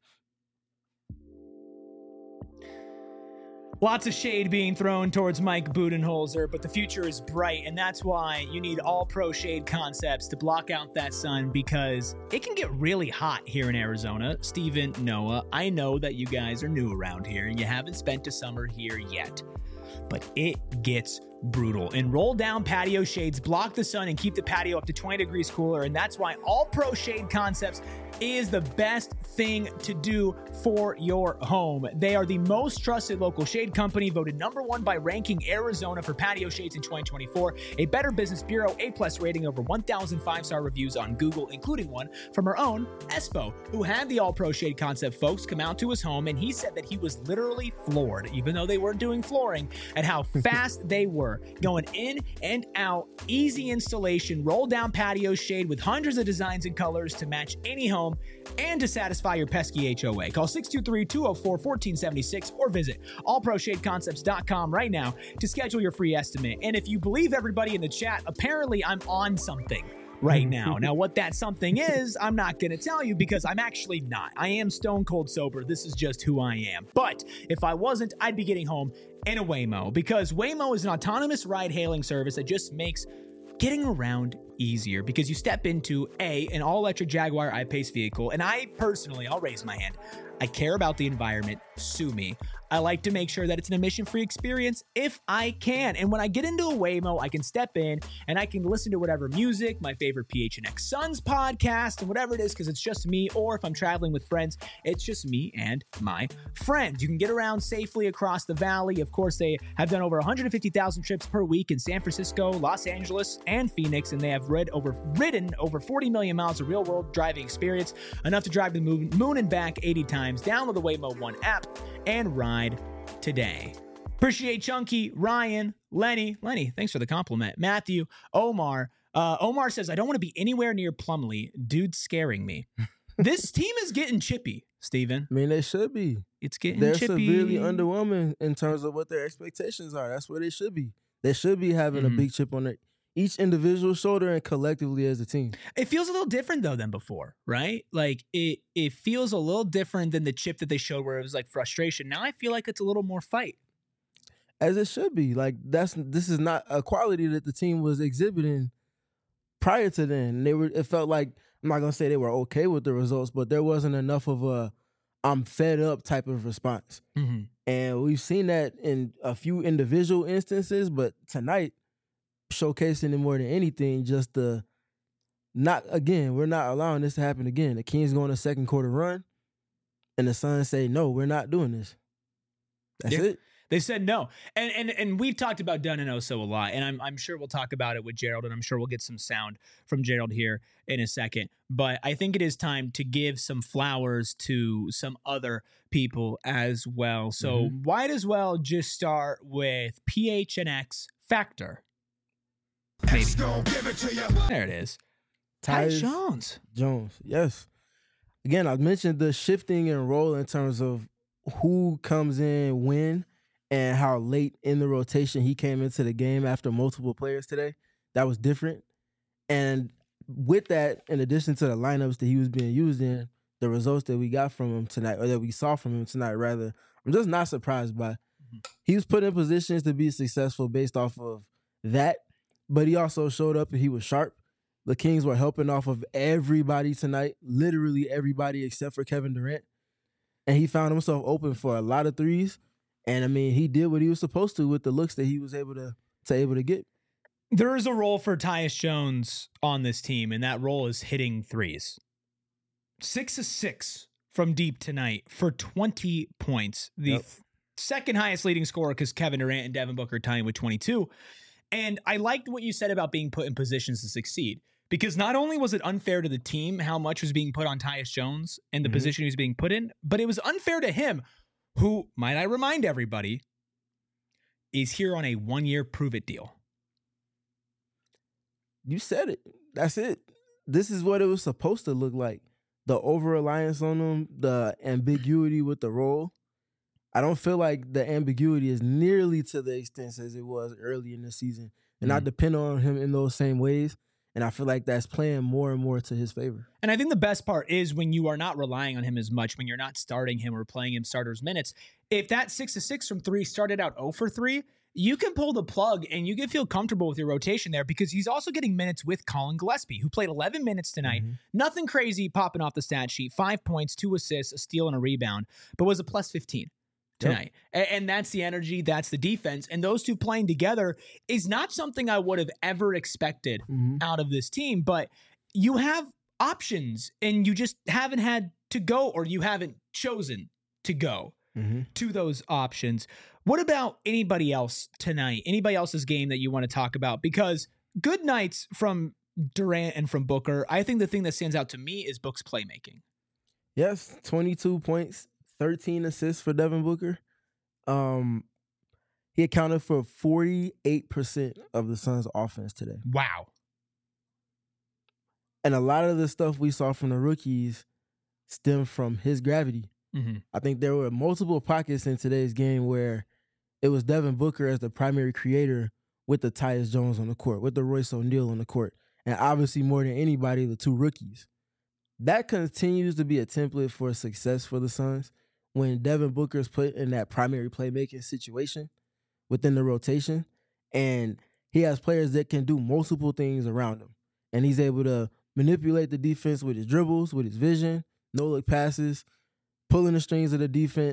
Lots of shade being thrown towards Mike Budenholzer, but the future is bright, and that's why you need All Pro Shade Concepts to block out that sun, because it can get really hot here in Arizona. Steven, Noah, I know that you guys are new around here, and you haven't spent a summer here yet, but it gets brutal. And roll down patio shades block the sun and keep the patio up to twenty degrees cooler, and that's why All Pro Shade Concepts is the best thing to do for your home. They are the most trusted local shade company, voted number one by Ranking Arizona for patio shades in twenty twenty-four, a Better Business Bureau A-plus rating, over one thousand five-star reviews on Google, including one from our own Espo, who had the All Pro Shade Concept folks come out to his home, and he said that he was literally floored, even though they weren't doing flooring, at how fast they were going in and out, easy installation, roll down patio shade with hundreds of designs and colors to match any home and to satisfy your pesky H O A. Call six two three, two oh four, one four seven six or visit all pro shade concepts dot com right now to schedule your free estimate. And if you believe everybody in the chat, apparently I'm on something right now. Now, what that something is, I'm not going to tell you because I'm actually not. I am stone cold sober. This is just who I am. But if I wasn't, I'd be getting home in a Waymo, because Waymo is an autonomous ride hailing service that just makes getting around easier, because you step into a an all-electric Jaguar I-Pace vehicle, and I personally, I'll raise my hand, I care about the environment. Sue me. I like to make sure that it's an admission-free experience if I can. And when I get into a Waymo, I can step in and I can listen to whatever music, my favorite P H N X Suns podcast, and whatever it is, because it's just me. Or if I'm traveling with friends, it's just me and my friends. You can get around safely across the valley. Of course, they have done over one hundred fifty thousand trips per week in San Francisco, Los Angeles, and Phoenix, and they have read over, ridden over forty million miles of real-world driving experience, enough to drive the moon, moon and back eighty times. Download the Waymo One app and ride today. Appreciate Chunky, Ryan, Lenny. Lenny, thanks for the compliment. Matthew, Omar. Uh, Omar says, I don't want to be anywhere near Plumlee. Dude's scaring me. This team is getting chippy, Steven. I mean, they should be. It's getting They're chippy. severely underwhelming in terms of what their expectations are. That's where they should be. They should be having Mhm. a big chip on their each individual shoulder and collectively as a team. It feels a little different though than before, right? Like it it feels a little different than the chip that they showed where it was like frustration. Now I feel like it's a little more fight. As it should be. Like that's this is not a quality that the team was exhibiting prior to then. They were it felt like I'm not gonna say they were okay with the results, but there wasn't enough of a I'm fed up type of response. Mm-hmm. And we've seen that in a few individual instances, but tonight, showcasing it more than anything, just the not again, we're not allowing this to happen again. The Kings go on a second quarter run, and the Suns say, no, we're not doing this. That's Yeah. it. They said no. And and and we've talked about Dunn and Oso a lot, and I'm I'm sure we'll talk about it with Gerald, and I'm sure we'll get some sound from Gerald here in a second. But I think it is time to give some flowers to some other people as well. So Mhm. might as well just start with P H N X Factor. Maybe. There it is. Ty Tyus Jones. Jones, yes. Again, I mentioned the shifting in role in terms of who comes in when and how late in the rotation he came into the game after multiple players today. That was different. And with that, in addition to the lineups that he was being used in, the results that we got from him tonight, or that we saw from him tonight, rather, I'm just not surprised by. Mm-hmm. He was put in positions to be successful based off of that, but he also showed up and he was sharp. The Kings were helping off of everybody tonight, literally everybody except for Kevin Durant. And he found himself open for a lot of threes. And, I mean, he did what he was supposed to with the looks that he was able to, to able to get. There is a role for Tyus Jones on this team, and that role is hitting threes. Six of six from deep tonight for twenty points. The Yep. th- second highest leading scorer because Kevin Durant and Devin Booker tying with twenty-two. And I liked what you said about being put in positions to succeed. Because not only was it unfair to the team how much was being put on Tyus Jones and the Mhm. position he was being put in, but it was unfair to him, who, might I remind everybody, is here on a one-year prove-it deal. You said it. That's it. This is what it was supposed to look like. The over-reliance on him, the ambiguity with the role. I don't feel like the ambiguity is nearly to the extent as it was early in the season. And I Mhm. depend on him in those same ways. And I feel like that's playing more and more to his favor. And I think the best part is when you are not relying on him as much, when you're not starting him or playing him starters minutes. If that six to six from three started out zero for three, you can pull the plug and you can feel comfortable with your rotation there because he's also getting minutes with Colin Gillespie, who played eleven minutes tonight. Mhm. Nothing crazy popping off the stat sheet. Five points, two assists, a steal, and a rebound, but was a plus fifteen tonight. A- And that's the energy, that's the defense. And those two playing together is not something I would have ever expected Mhm. out of this team, but you have options and you just haven't had to go, or you haven't chosen to go Mhm. to those options. What about anybody else tonight? Anybody else's game that you want to talk about? Because good nights from Durant and from Booker. I think the thing that stands out to me is Book's playmaking. Yes, twenty-two points, thirteen assists for Devin Booker. Um, he accounted for forty-eight percent of the Suns' offense today. Wow. And a lot of the stuff we saw from the rookies stemmed from his gravity. Mm-hmm. I think there were multiple pockets in today's game where it was Devin Booker as the primary creator with the Tyus Jones on the court, with the Royce O'Neal on the court, and obviously more than anybody, the two rookies. That continues to be a template for success for the Suns when Devin Booker is put in that primary playmaking situation within the rotation, and he has players that can do multiple things around him, and he's able to manipulate the defense with his dribbles, with his vision, no-look passes, pulling the strings of the defense,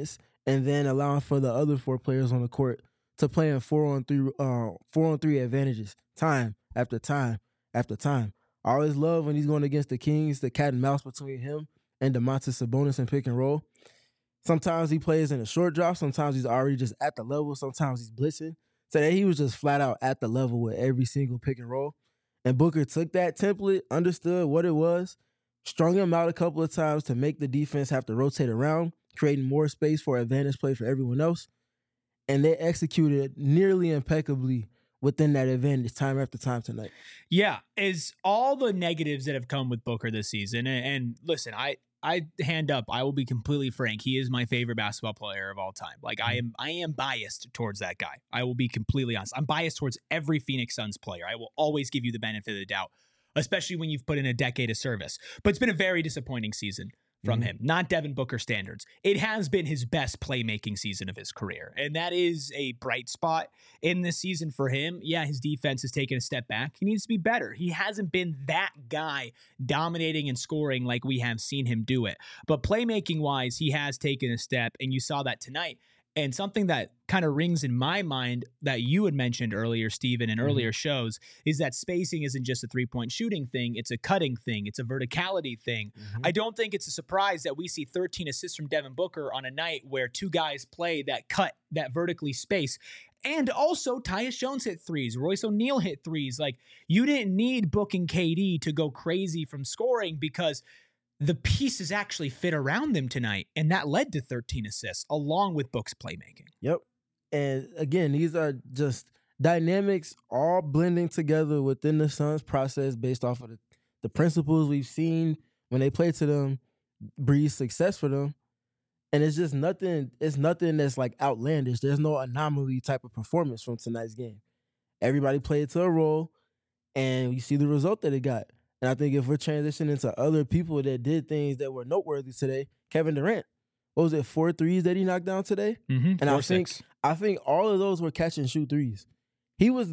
and then allowing for the other four players on the court to play in four on three, uh, four on three advantages, time after time after time. I always love when he's going against the Kings, the cat and mouse between him and Domantas Sabonis in pick and roll. Sometimes he plays in a short drop. Sometimes he's already just at the level. Sometimes he's blitzing. Today he was just flat out at the level with every single pick and roll. And Booker took that template, understood what it was, strung him out a couple of times to make the defense have to rotate around, creating more space for advantage play for everyone else. And they executed nearly impeccably within that advantage time after time tonight. Yeah, is all the negatives that have come with Booker this season. And, and listen, I I hand up, I will be completely frank. He is my favorite basketball player of all time. Like I am I am biased towards that guy. I will be completely honest. I'm biased towards every Phoenix Suns player. I will always give you the benefit of the doubt, especially when you've put in a decade of service. But it's been a very disappointing season from mm-hmm. him, not Devin Booker standards. It has been his best playmaking season of his career, and that is a bright spot in this season for him. Yeah, his defense has taken a step back. He needs to be better. He hasn't been that guy dominating and scoring like we have seen him do it. But playmaking-wise, he has taken a step, and you saw that tonight. And something that kind of rings in my mind that you had mentioned earlier, Steven, in mm-hmm. earlier shows, is that spacing isn't just a three-point shooting thing. It's a cutting thing. It's a verticality thing. Mm-hmm. I don't think it's a surprise that we see thirteen assists from Devin Booker on a night where two guys play that cut, that vertically space. And also, Tyus Jones hit threes. Royce O'Neal hit threes. Like, you didn't need Book and K D to go crazy from scoring because the pieces actually fit around them tonight, and that led to thirteen assists, along with Book's playmaking. Yep. And again, these are just dynamics all blending together within the Suns process based off of the, the principles we've seen when they play to them, breed success for them. And it's just nothing, it's nothing that's like outlandish. There's no anomaly type of performance from tonight's game. Everybody played to a role, and you see the result that it got. And I think if we're transitioning to other people that did things that were noteworthy today, Kevin Durant, what was it, four threes that he knocked down today? Mm-hmm. And Four, I think six. I think all of those were catch and shoot threes. He was,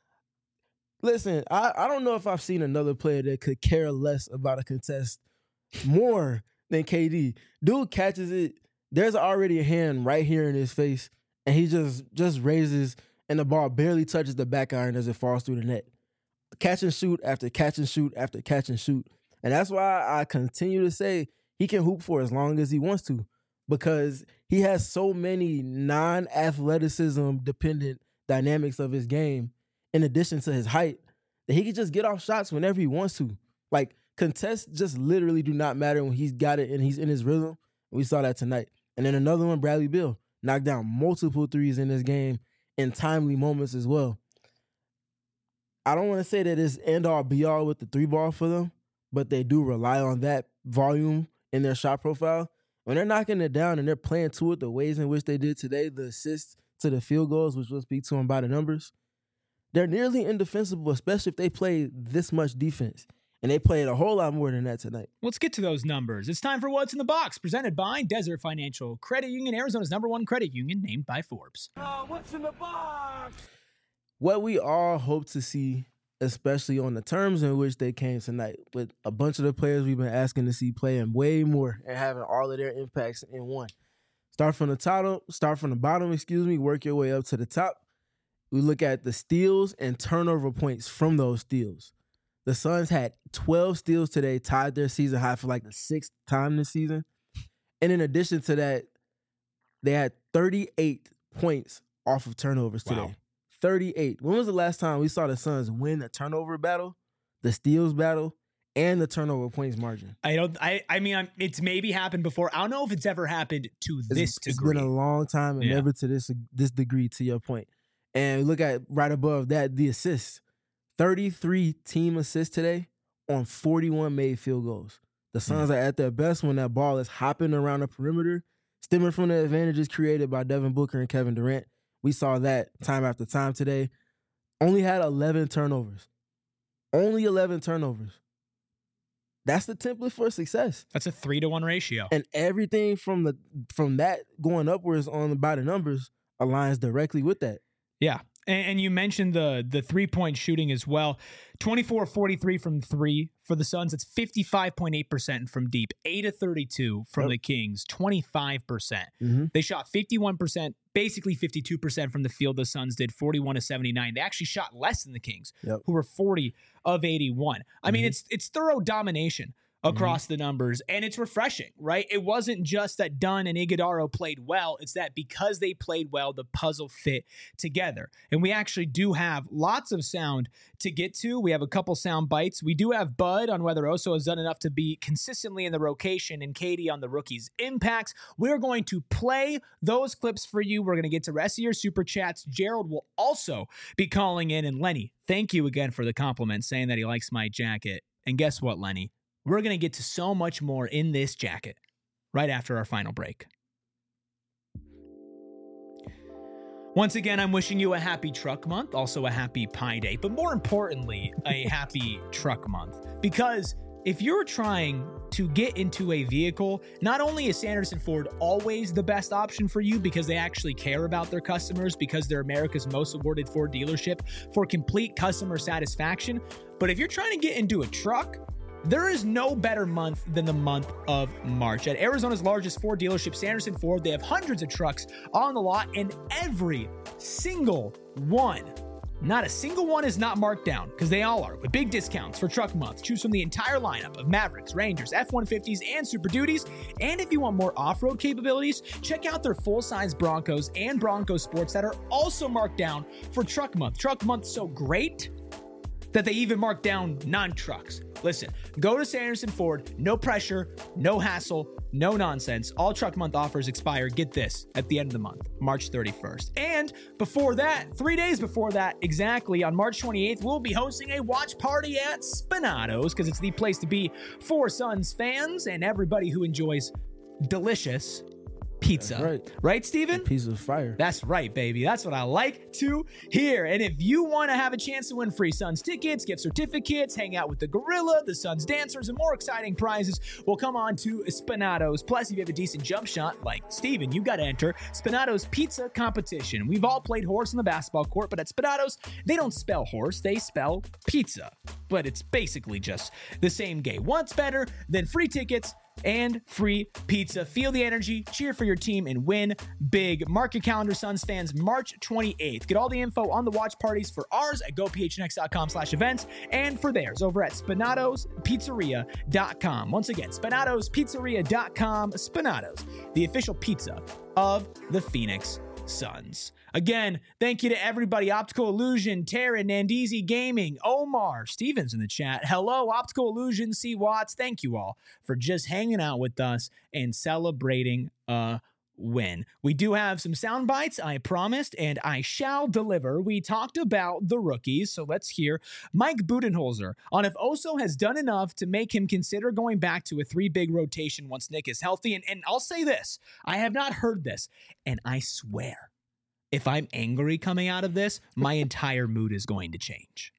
listen, I, I don't know if I've seen another player that could care less about a contest more than K D. Dude catches it, there's already a hand right here in his face, and he just just raises, and the ball barely touches the back iron as it falls through the net. Catch and shoot after catch and shoot after catch and shoot. And that's why I continue to say he can hoop for as long as he wants to, because he has so many non-athleticism dependent dynamics of his game in addition to his height that he can just get off shots whenever he wants to. Like, contests just literally do not matter when he's got it and he's in his rhythm. We saw that tonight. And then another one, Bradley Beal, knocked down multiple threes in this game in timely moments as well. I don't want to say that it's end-all be-all with the three ball for them, but they do rely on that volume in their shot profile. When they're knocking it down and they're playing to it the ways in which they did today, the assists to the field goals, which we'll speak to them by the numbers, they're nearly indefensible, especially if they play this much defense. And they played a whole lot more than that tonight. Let's get to those numbers. It's time for What's in the Box, presented by Desert Financial Credit Union, Arizona's number one credit union, named by Forbes. Uh, what's in the box? What we all hope to see, especially on the terms in which they came tonight, with a bunch of the players we've been asking to see playing way more and having all of their impacts in one. Start from the top, start from the bottom, excuse me, work your way up to the top. We look at the steals and turnover points from those steals. The Suns had twelve steals today, tied their season high for like the sixth time this season. And in addition to that, they had thirty-eight points off of turnovers today. Wow. thirty-eight. When was the last time we saw the Suns win a turnover battle, the steals battle, and the turnover points margin? I don't. I. I mean, I'm, it's maybe happened before. I don't know if it's ever happened to It's, this it's degree. been a long time and Yeah. never to this this degree, to your point. And look at right above that, the assists. thirty-three team assists today on forty-one made field goals. The Suns mm. are at their best when that ball is hopping around the perimeter, stemming from the advantages created by Devin Booker and Kevin Durant. We saw that time after time today. Only had eleven turnovers. Only eleven turnovers. That's the template for success. That's a three to one ratio. And everything from the from that going upwards on by the numbers aligns directly with that. Yeah. And, and you mentioned the the three-point shooting as well. twenty-four of forty-three from three for the Suns. It's fifty-five point eight percent from deep. eight of thirty-two from Yep. the Kings. twenty-five percent. Mm-hmm. They shot fifty-one percent, basically fifty-two percent from the field. The Suns did forty-one of seventy-nine. They actually shot less than the Kings, Yep. who were forty of eighty-one. I mean, Mhm. it's it's thorough domination across the numbers, and it's refreshing, right? It wasn't just that Dunn and Iguodaro played well. It's that because they played well, the puzzle fit together. And we actually do have lots of sound to get to. We have a couple sound bites. We do have Bud on whether Oso has done enough to be consistently in the rotation, and Katie on the rookies' impacts. We're going to play those clips for you. We're going to get to the rest of your super chats. Gerald will also be calling in. And Lenny, thank you again for the compliment, saying that he likes my jacket. And guess what, Lenny? We're going to get to so much more in this jacket right after our final break. Once again, I'm wishing you a happy truck month, also a happy Pi Day, but more importantly, a happy truck month. Because if you're trying to get into a vehicle, not only is Sanderson Ford always the best option for you because they actually care about their customers, because they're America's most awarded Ford dealership for complete customer satisfaction, but if you're trying to get into a truck, there is no better month than the month of March. At Arizona's largest Ford dealership, Sanderson Ford, they have hundreds of trucks on the lot, and every single one, not a single one is not marked down, because they all are, with big discounts for truck month. Choose from the entire lineup of Mavericks, Rangers, F one fifties, and Super Duties. And if you want more off-road capabilities, check out their full-size Broncos and Bronco Sports that are also marked down for truck month. Truck month's so great that they even mark down non-trucks. Listen, go to Sanderson Ford, no pressure, no hassle, no nonsense. All truck month offers expire, get this, at the end of the month, March thirty-first. And before that, three days before that, exactly, on March twenty-eighth, we'll be hosting a watch party at Spinatos, because it's the place to be for Suns fans and everybody who enjoys delicious pizza. That's right. Right, Steven? Piece of fire. That's right, baby. That's what I like to hear. And if you want to have a chance to win free Suns tickets, gift certificates, hang out with the Gorilla, the Suns dancers, and more exciting prizes, well, come on to Spinatos. Plus, if you have a decent jump shot, like Steven, you got to enter Spinatos Pizza Competition. We've all played horse on the basketball court, but at Spinatos, they don't spell horse, they spell pizza. But it's basically just the same game. What's better than free tickets and free pizza? Feel the energy, cheer for your team, and win big. Mark your calendar, Suns fans, March twenty-eighth. Get all the info on the watch parties for ours at go p h n x dot com slash events and for theirs over at spinatos pizzeria dot com. Once again, spinatos pizzeria dot com. Spinatos, the official pizza of the Phoenix Suns. Again, thank you to everybody. Optical Illusion, Taryn, Nandizi Gaming, Omar, Stevens in the chat. Hello, Optical Illusion, C. Watts. Thank you all for just hanging out with us and celebrating a win. We do have some sound bites, I promised, and I shall deliver. We talked about the rookies, so let's hear Mike Budenholzer on if Oso has done enough to make him consider going back to a three-big rotation once Nick is healthy. And, and I'll say this, I have not heard this, and I swear, if I'm angry coming out of this, my entire mood is going to change.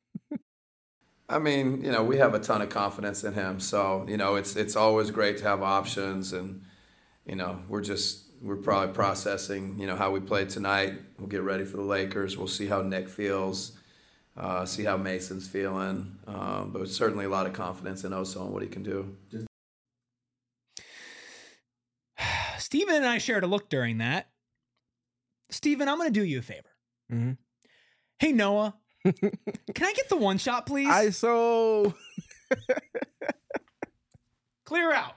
I mean, you know, we have a ton of confidence in him. So, you know, it's it's always great to have options. And, you know, we're just, we're probably processing, you know, how we played tonight. We'll get ready for the Lakers. We'll see how Nick feels, uh, see how Mason's feeling. Um, but certainly a lot of confidence in Oso and what he can do. Steven and I shared a look during that. Steven, I'm going to do you a favor. Mm-hmm. Hey, Noah, can I get the one shot, please? I so Clear out.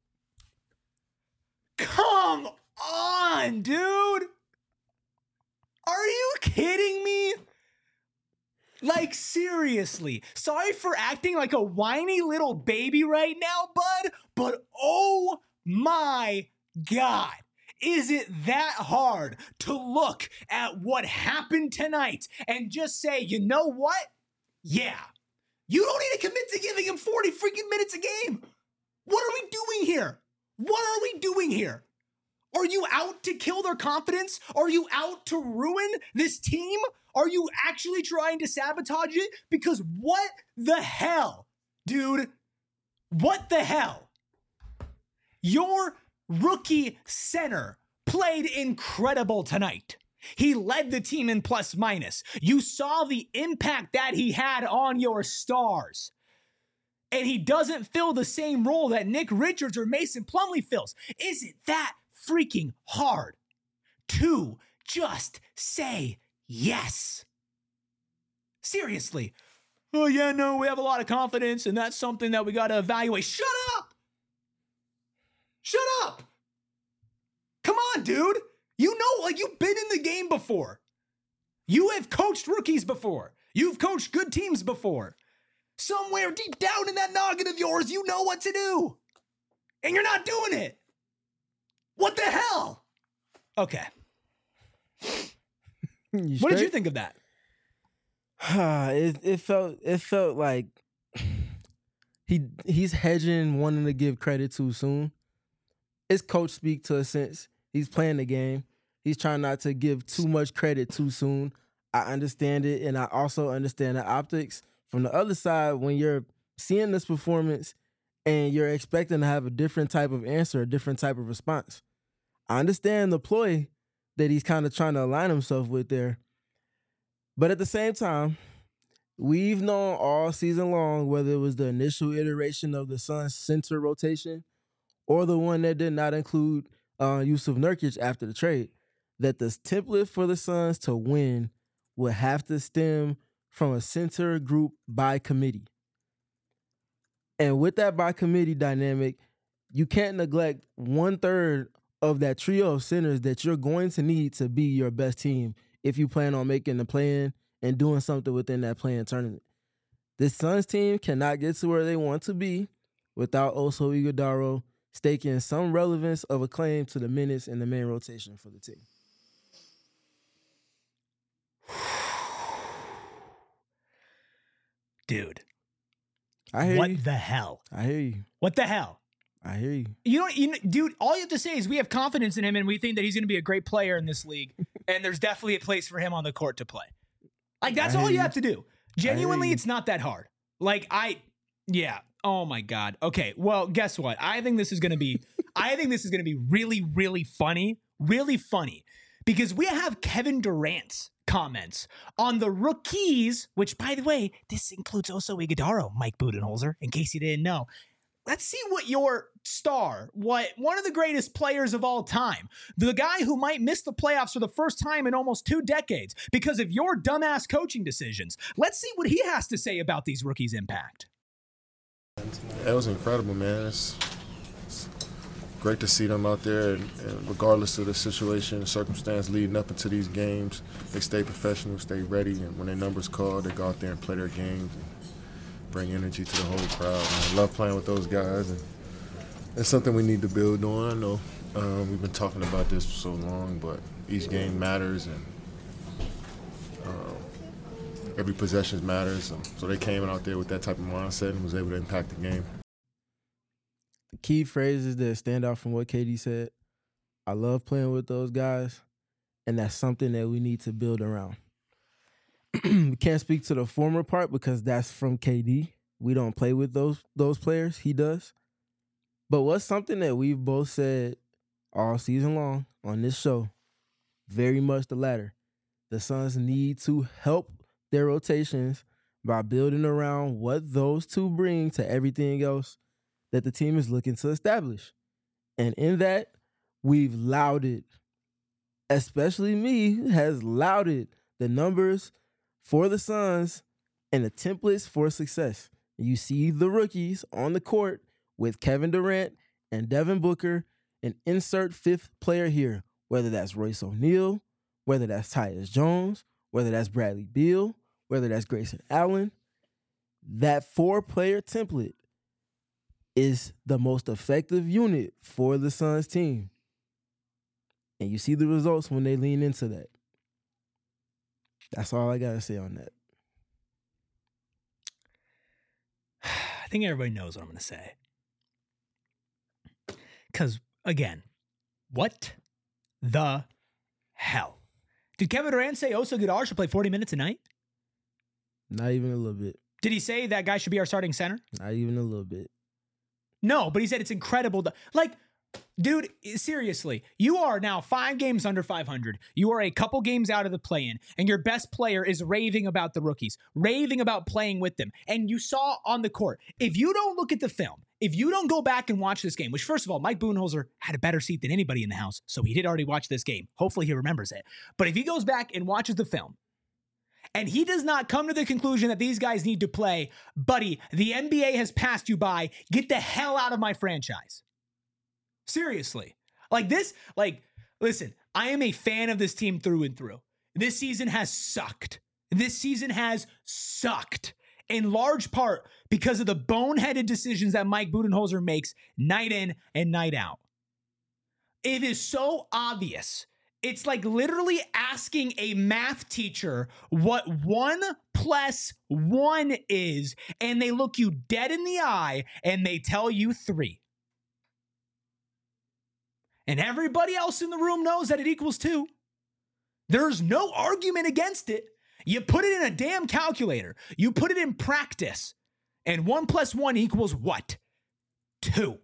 Come on, dude. Are you kidding me? Like, seriously. Sorry for acting like a whiny little baby right now, bud, but oh my God. Is it that hard to look at what happened tonight and just say, you know what? Yeah, you don't need to commit to giving him forty freaking minutes a game. What are we doing here? What are we doing here? Are you out to kill their confidence? Are you out to ruin this team? Are you actually trying to sabotage it? Because what the hell, dude? What the hell? Your rookie center played incredible tonight. He led the team in plus minus. You saw the impact that he had on your stars. And he doesn't fill the same role that Nick Richards or Mason Plumlee fills. Is it that freaking hard to just say yes? Seriously. Oh, yeah, no, we have a lot of confidence, and that's something that we got to evaluate. Shut up! Shut up! Come on, dude. You know, like, you've been in the game before. You have coached rookies before. You've coached good teams before. Somewhere deep down in that noggin of yours, you know what to do. And you're not doing it. What the hell? Okay. What did you think of that? it it felt it felt like he he's hedging, wanting to give credit too soon. It's coach speak to a sense. He's playing the game. He's trying not to give too much credit too soon. I understand it, and I also understand the optics. From the other side, when you're seeing this performance and you're expecting to have a different type of answer, a different type of response, I understand the ploy that he's kind of trying to align himself with there. But at the same time, we've known all season long, whether it was the initial iteration of the Suns' center rotation or the one that did not include uh, Yusuf Nurkic after the trade, that the template for the Suns to win would have to stem from a center group by committee. And with that by committee dynamic, you can't neglect one third of that trio of centers that you're going to need to be your best team if you plan on making the play-in and doing something within that play-in tournament. This Suns team cannot get to where they want to be without Oso Ighodaro staking some relevance of a claim to the minutes in the main rotation for the team. Dude. I hear what you. the hell? I hear you. What the hell? I hear you. You know, you know, dude, all you have to say is we have confidence in him and we think that he's going to be a great player in this league. And there's definitely a place for him on the court to play. Like, that's all you, you have to do. Genuinely, it's not that hard. Like, I, yeah. Oh my God. Okay. Well, guess what? I think this is going to be, I think this is going to be really, really funny. Really funny. Because we have Kevin Durant's comments on the rookies, which, by the way, this includes Oso Ighodaro, Mike Budenholzer, in case you didn't know. Let's see what your star, what one of the greatest players of all time, the guy who might miss the playoffs for the first time in almost two decades because of your dumbass coaching decisions. Let's see what he has to say about these rookies' impact. It was incredible, man. It's, it's great to see them out there, and, and regardless of the situation and circumstance leading up into these games, they stay professional, stay ready, and when their number's called, they go out there and play their games. Bring energy to the whole crowd. Man. I love playing with those guys, and it's something we need to build on. I know um, we've been talking about this for so long, but each game matters, and um, every possession matters. And so they came out there with that type of mindset and was able to impact the game. The key phrases that stand out from what K D said, I love playing with those guys, and that's something that we need to build around. We can't speak to the former part because that's from K D. We don't play with those those players. He does. But what's something that we've both said all season long on this show, very much the latter. The Suns need to help their rotations by building around what those two bring to everything else that the team is looking to establish. And in that, we've lauded, especially me, has lauded the numbers for the Suns and the templates for success. You see the rookies on the court with Kevin Durant and Devin Booker, and insert fifth player here, whether that's Royce O'Neal, whether that's Tyus Jones, whether that's Bradley Beal, whether that's Grayson Allen. That four-player template is the most effective unit for the Suns team. And you see the results when they lean into that. That's all I got to say on that. I think everybody knows what I'm going to say. Because, again, what the hell? Did Kevin Durant say Oso Ighodaro should play forty minutes a night? Not even a little bit. Did he say that guy should be our starting center? Not even a little bit. No, but he said it's incredible. To, like, Dude, seriously, you are now five games under five hundred. You are a couple games out of the play-in, and your best player is raving about the rookies, raving about playing with them. And you saw on the court, if you don't look at the film, if you don't go back and watch this game, which first of all, Mike Budenholzer had a better seat than anybody in the house, so he did already watch this game. Hopefully he remembers it. But if he goes back and watches the film, and he does not come to the conclusion that these guys need to play, buddy, the N B A has passed you by. Get the hell out of my franchise. Seriously. Like this, like, listen, I am a fan of this team through and through. This season has sucked. This season has sucked. In large part because of the boneheaded decisions that Mike Budenholzer makes night in and night out. It is so obvious. It's like literally asking a math teacher what one plus one is, and they look you dead in the eye and they tell you three. And everybody else in the room knows that it equals two. There's no argument against it. You put it in a damn calculator. You put it in practice. And one plus one equals what? Two.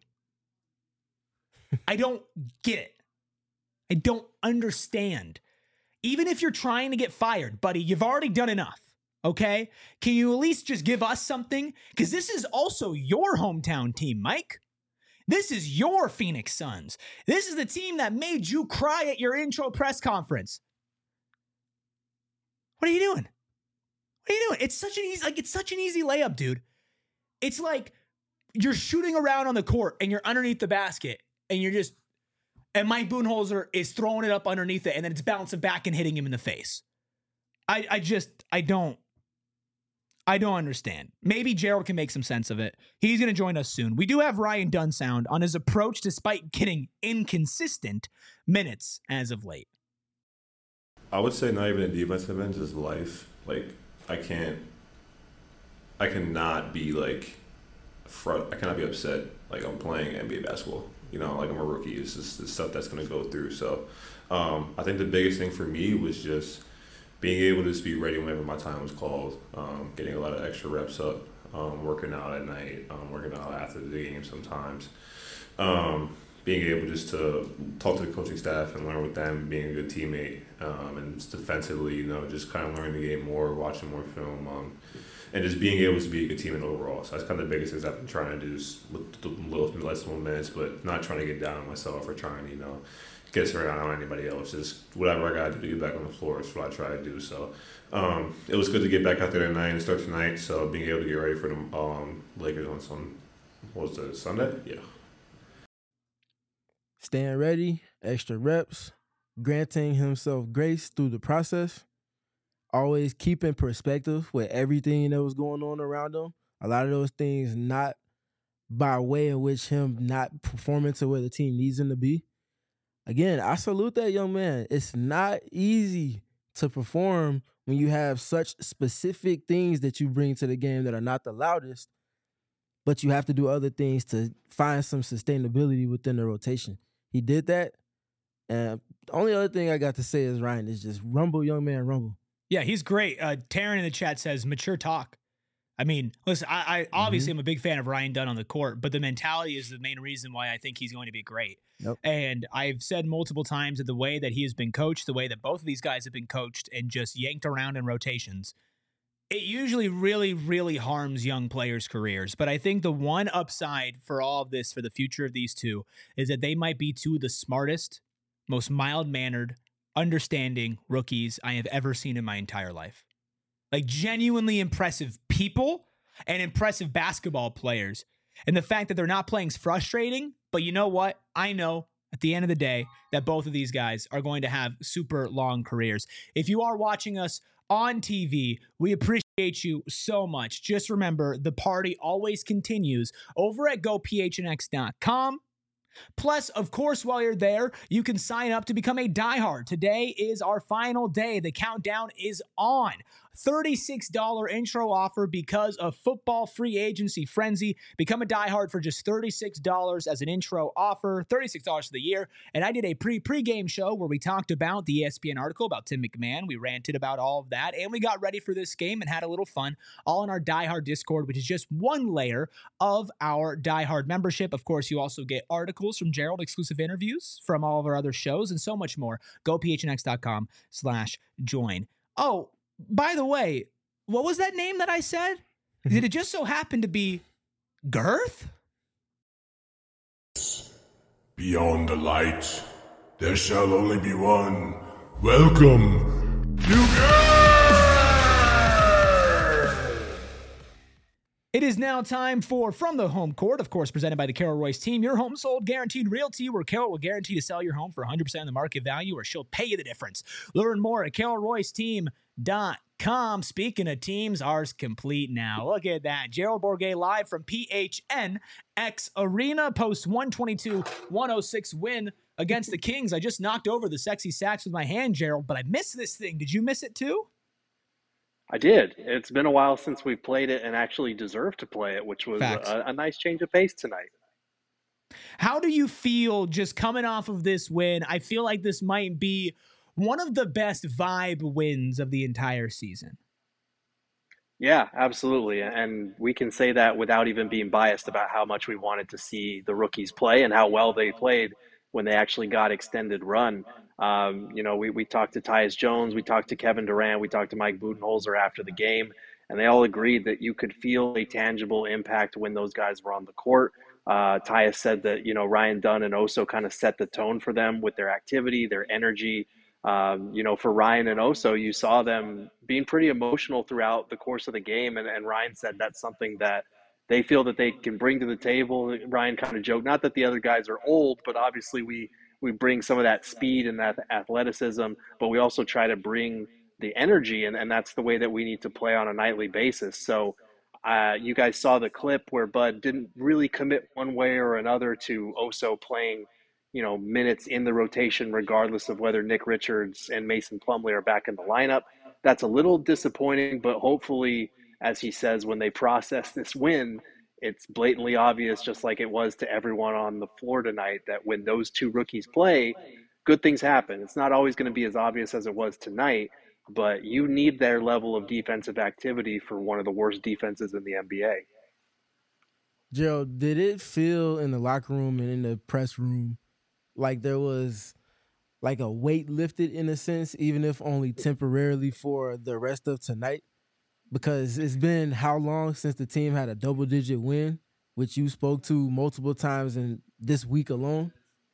I don't get it. I don't understand. Even if you're trying to get fired, buddy, you've already done enough. Okay? Can you at least just give us something? Because this is also your hometown team, Mike. This is your Phoenix Suns. This is the team that made you cry at your intro press conference. What are you doing? What are you doing? It's such an easy, like it's such an easy layup, dude. It's like you're shooting around on the court and you're underneath the basket and you're just, and Mike Budenholzer is throwing it up underneath it and then it's bouncing back and hitting him in the face. I, I just, I don't, I don't understand. Maybe Gerald can make some sense of it. He's going to join us soon. We do have Ryan Dunsound on his approach despite getting inconsistent minutes as of late. I would say not even a defensive end, just life. Like, I can't, I cannot be like, fr- I cannot be upset. Like, I'm playing N B A basketball. You know, like I'm a rookie. It's just the stuff that's going to go through. So, um, I think the biggest thing for me was just being able to just be ready whenever my time was called, um, getting a lot of extra reps up, um, working out at night, um, working out after the game sometimes. Um, being able just to talk to the coaching staff and learn with them, being a good teammate, um, and just defensively, you know, just kind of learning the game more, watching more film, um, and just being able to be a good teammate overall. So that's kind of the biggest things I've been trying to do, is with the little less minutes, but not trying to get down on myself or trying to, you know, get around on anybody else. Just whatever I got to do to get back on the floor is what I try to do. So um, it was good to get back out there tonight and start tonight. So being able to get ready for the um, Lakers on some, what was it, Sunday? Yeah. Staying ready, extra reps, granting himself grace through the process, always keeping perspective with everything that was going on around him. A lot of those things not by way in which him not performing to where the team needs him to be. Again, I salute that young man. It's not easy to perform when you have such specific things that you bring to the game that are not the loudest, but you have to do other things to find some sustainability within the rotation. He did that. And the only other thing I got to say is, Ryan, is just rumble, young man, rumble. Yeah, he's great. Uh, Taryn in the chat says, mature talk. I mean, listen, I, I obviously mm-hmm. am a big fan of Ryan Dunn on the court, but the mentality is the main reason why I think he's going to be great. Yep. And I've said multiple times that the way that he has been coached, the way that both of these guys have been coached and just yanked around in rotations, it usually really, really harms young players' careers. But I think the one upside for all of this, for the future of these two, is that they might be two of the smartest, most mild-mannered, understanding rookies I have ever seen in my entire life. Like, genuinely impressive people and impressive basketball players. And the fact that they're not playing is frustrating, but you know what? I know at the end of the day that both of these guys are going to have super long careers. If you are watching us on T V, we appreciate you so much. Just remember, the party always continues over at go p h n x dot com. Plus, of course, while you're there, you can sign up to become a diehard. Today is our final day. The countdown is on. thirty-six dollars intro offer because of football free agency frenzy. Become a diehard for just thirty-six dollars as an intro offer, thirty-six dollars for the year. And I did a pre pre-game show where we talked about the E S P N article about Tim McMahon. We ranted about all of that, and we got ready for this game and had a little fun, all in our diehard Discord, which is just one layer of our diehard membership. Of course, you also get articles from Gerald, exclusive interviews from all of our other shows, and so much more. Go P H N X dot com slash join. Oh, by the way, what was that name that I said? Did it just so happen to be Girth? Beyond the light, there shall only be one. Welcome to Girth! It is now time for From the Home Court, of course, presented by the Carol Royce team. Your home sold guaranteed realty, where Carol will guarantee to sell your home for one hundred percent of the market value, or she'll pay you the difference. Learn more at carol royce team dot com. Speaking of teams, ours complete now. Look at that. Gerald Bourguet live from P H N X Arena, post one twenty-two one oh six win against the Kings. I just knocked over the sexy sacks with my hand, Gerald, but I missed this thing. Did you miss it too? I did. It's been a while since we played it and actually deserved to play it, which was a, a nice change of pace tonight. How do you feel just coming off of this win? I feel like this might be one of the best vibe wins of the entire season. Yeah, absolutely. And we can say that without even being biased about how much we wanted to see the rookies play and how well they played when they actually got extended run. Um, you know, we, we talked to Tyus Jones, we talked to Kevin Durant, we talked to Mike Budenholzer after the game, and they all agreed that you could feel a tangible impact when those guys were on the court. Uh, Tyus said that, you know, Ryan Dunn and Oso kind of set the tone for them with their activity, their energy. Um, you know, for Ryan and Oso, you saw them being pretty emotional throughout the course of the game, and, and Ryan said that's something that they feel that they can bring to the table. Ryan kind of joked, not that the other guys are old, but obviously we we bring some of that speed and that athleticism, but we also try to bring the energy, and, and that's the way that we need to play on a nightly basis. So uh, you guys saw the clip where Bud didn't really commit one way or another to Oso playing, you know, minutes in the rotation, regardless of whether Nick Richards and Mason Plumlee are back in the lineup. That's a little disappointing, but hopefully, as he says, when they process this win, it's blatantly obvious, just like it was to everyone on the floor tonight, that when those two rookies play, good things happen. It's not always going to be as obvious as it was tonight, but you need their level of defensive activity for one of the worst defenses in the N B A. Gerald, did it feel in the locker room and in the press room like there was like a weight lifted in a sense, even if only temporarily, for the rest of tonight? Because it's been how long since the team had a double-digit win, which you spoke to multiple times in this week alone?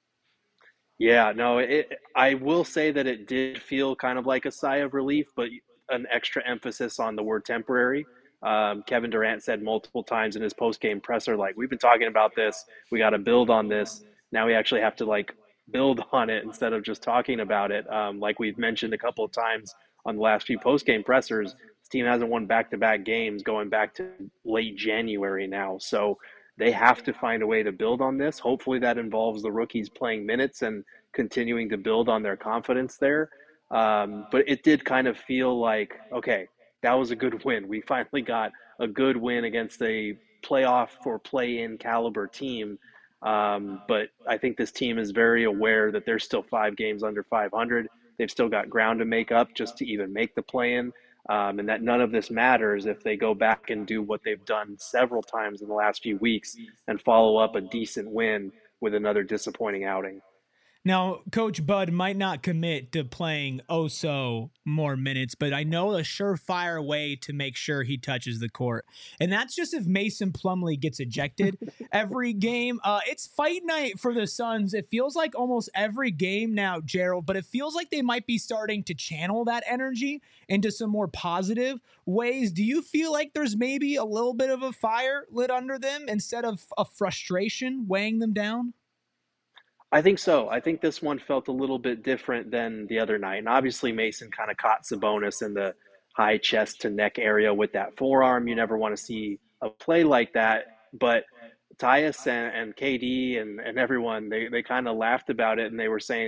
Yeah, no, it, I will say that it did feel kind of like a sigh of relief, but an extra emphasis on the word temporary. Um, Kevin Durant said multiple times in his post-game presser, like, we've been talking about this, we got to build on this. Now we actually have to, like, build on it instead of just talking about it. Um, like we've mentioned a couple of times on the last few post-game pressers, this team hasn't won back-to-back games going back to late January now. So they have to find a way to build on this. Hopefully that involves the rookies playing minutes and continuing to build on their confidence there. Um, but it did kind of feel like, okay, that was a good win. We finally got a good win against a playoff or play-in caliber team. Um, but I think this team is very aware that they're still five games under five hundred. They've still got ground to make up just to even make the play-in, um, and that none of this matters if they go back and do what they've done several times in the last few weeks and follow up a decent win with another disappointing outing. Now, Coach Bud might not commit to playing Oso more minutes, but I know a surefire way to make sure he touches the court. And that's just if Mason Plumlee gets ejected every game. Uh, it's fight night for the Suns. It feels like almost every game now, Gerald, but it feels like they might be starting to channel that energy into some more positive ways. Do you feel like there's maybe a little bit of a fire lit under them instead of a frustration weighing them down? I think so. I think this one felt a little bit different than the other night. And obviously Mason kind of caught Sabonis in the high chest to neck area with that forearm. You never want to see a play like that. But Tyus and, and K D and, and everyone, they, they kind of laughed about it, and they were saying,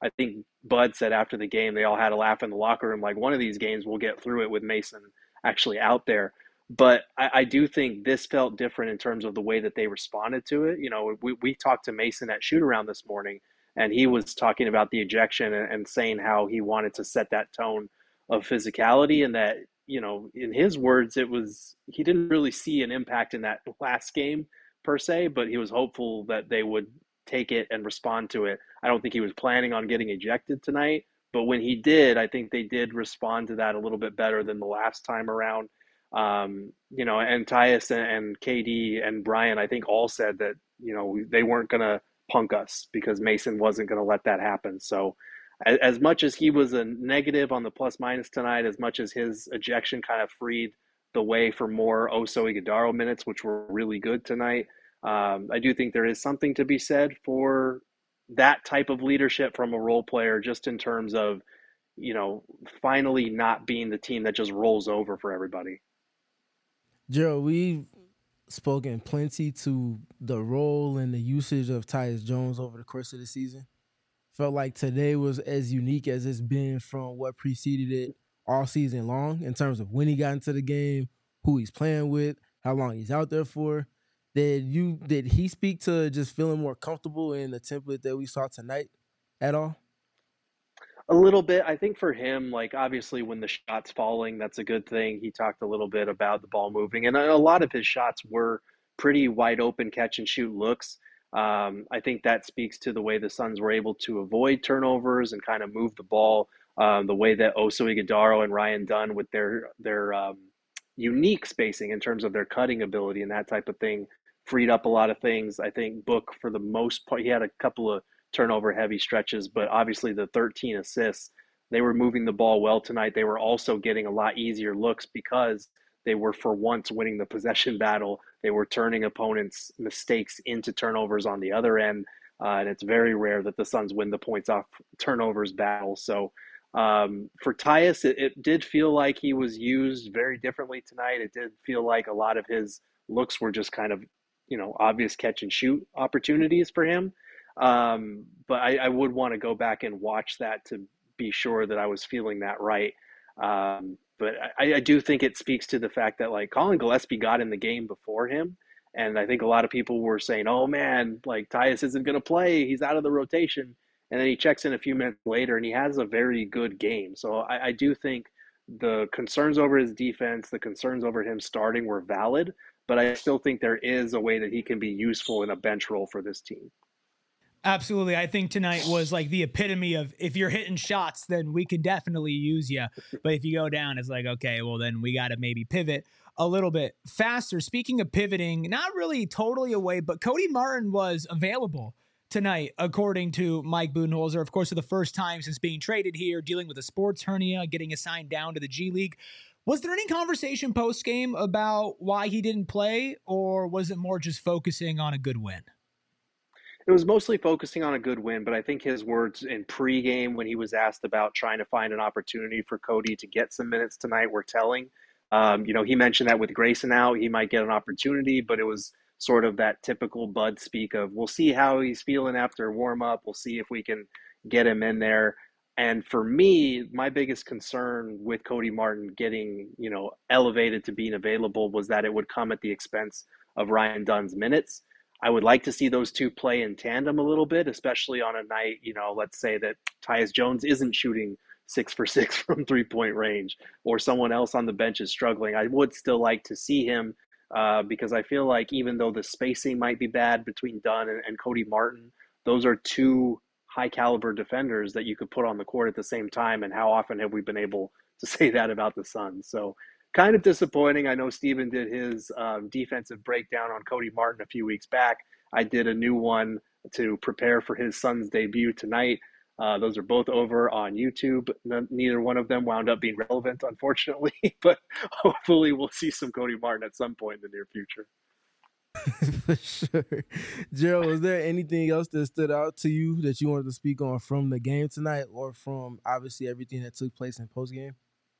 I think Bud said after the game, they all had a laugh in the locker room, like one of these games we'll get through it with Mason actually out there. But I, I do think this felt different in terms of the way that they responded to it. You know, we, we talked to Mason at shoot around this morning, and he was talking about the ejection and, and saying how he wanted to set that tone of physicality, and that, you know, in his words, it was, he didn't really see an impact in that last game per se, but he was hopeful that they would take it and respond to it. I don't think he was planning on getting ejected tonight, but when he did, I think they did respond to that a little bit better than the last time around. Um, you know, and Tyus and, and K D and Brian, I think all said that, you know, they weren't going to punk us because Mason wasn't going to let that happen. So as, as much as he was a negative on the plus minus tonight, as much as his ejection kind of freed the way for more Oso Ighodaro minutes, which were really good tonight, um, I do think there is something to be said for that type of leadership from a role player, just in terms of, you know, finally not being the team that just rolls over for everybody. Gerald, we've spoken plenty to the role and the usage of Tyus Jones over the course of the season. Felt like today was as unique as it's been from what preceded it all season long in terms of when he got into the game, who he's playing with, how long he's out there for. Did you did he speak to just feeling more comfortable in the template that we saw tonight at all? A little bit. I think for him, like, obviously when the shot's falling, that's a good thing. He talked a little bit about the ball moving, and a lot of his shots were pretty wide open catch and shoot looks. Um, I think that speaks to the way the Suns were able to avoid turnovers and kind of move the ball, um, the way that Oso Ighodaro and Ryan Dunn, with their their um, unique spacing in terms of their cutting ability and that type of thing, freed up a lot of things. I think Book, for the most part, he had a couple of turnover heavy stretches, but obviously the thirteen assists, they were moving the ball well tonight. They were also getting a lot easier looks because they were for once winning the possession battle. They were turning opponents' mistakes into turnovers on the other end. Uh, and it's very rare that the Suns win the points off turnovers battle. So um, for Tyus, it, it did feel like he was used very differently tonight. It did feel like a lot of his looks were just kind of, you know, obvious catch and shoot opportunities for him. Um, but I, I would want to go back and watch that to be sure that I was feeling that right. Um, but I, I do think it speaks to the fact that, like, Colin Gillespie got in the game before him. And I think a lot of people were saying, oh man, like, Tyus isn't going to play. He's out of the rotation. And then he checks in a few minutes later and he has a very good game. So I, I do think the concerns over his defense, the concerns over him starting were valid, but I still think there is a way that he can be useful in a bench role for this team. Absolutely. I think tonight was like the epitome of, if you're hitting shots, then we can definitely use you. But if you go down, it's like, okay, well, then we got to maybe pivot a little bit faster. Speaking of pivoting, not really totally away, but Cody Martin was available tonight, according to Mike Budenholzer. Of course, for the first time since being traded here, dealing with a sports hernia, getting assigned down to the G League. Was there any conversation post-game about why he didn't play, or was it more just focusing on a good win? It was mostly focusing on a good win, but I think his words in pregame when he was asked about trying to find an opportunity for Cody to get some minutes tonight were telling. Um, you know, he mentioned that with Grayson out, he might get an opportunity, but it was sort of that typical Bud speak of, we'll see how he's feeling after warm up. We'll see if we can get him in there. And for me, my biggest concern with Cody Martin getting, you know, elevated to being available was that it would come at the expense of Ryan Dunn's minutes. I would like to see those two play in tandem a little bit, especially on a night, you know, let's say that Tyus Jones isn't shooting six for six from three-point range, or someone else on the bench is struggling. I would still like to see him uh, because I feel like even though the spacing might be bad between Dunn and, and Cody Martin, those are two high-caliber defenders that you could put on the court at the same time, and how often have we been able to say that about the Suns? So kind of disappointing. I know Steven did his um, defensive breakdown on Cody Martin a few weeks back. I did a new one to prepare for his Suns debut tonight. Uh, those are both over on YouTube. N- neither one of them wound up being relevant, unfortunately, but hopefully we'll see some Cody Martin at some point in the near future. For sure. Gerald, was there anything else that stood out to you that you wanted to speak on from the game tonight, or from obviously everything that took place in postgame?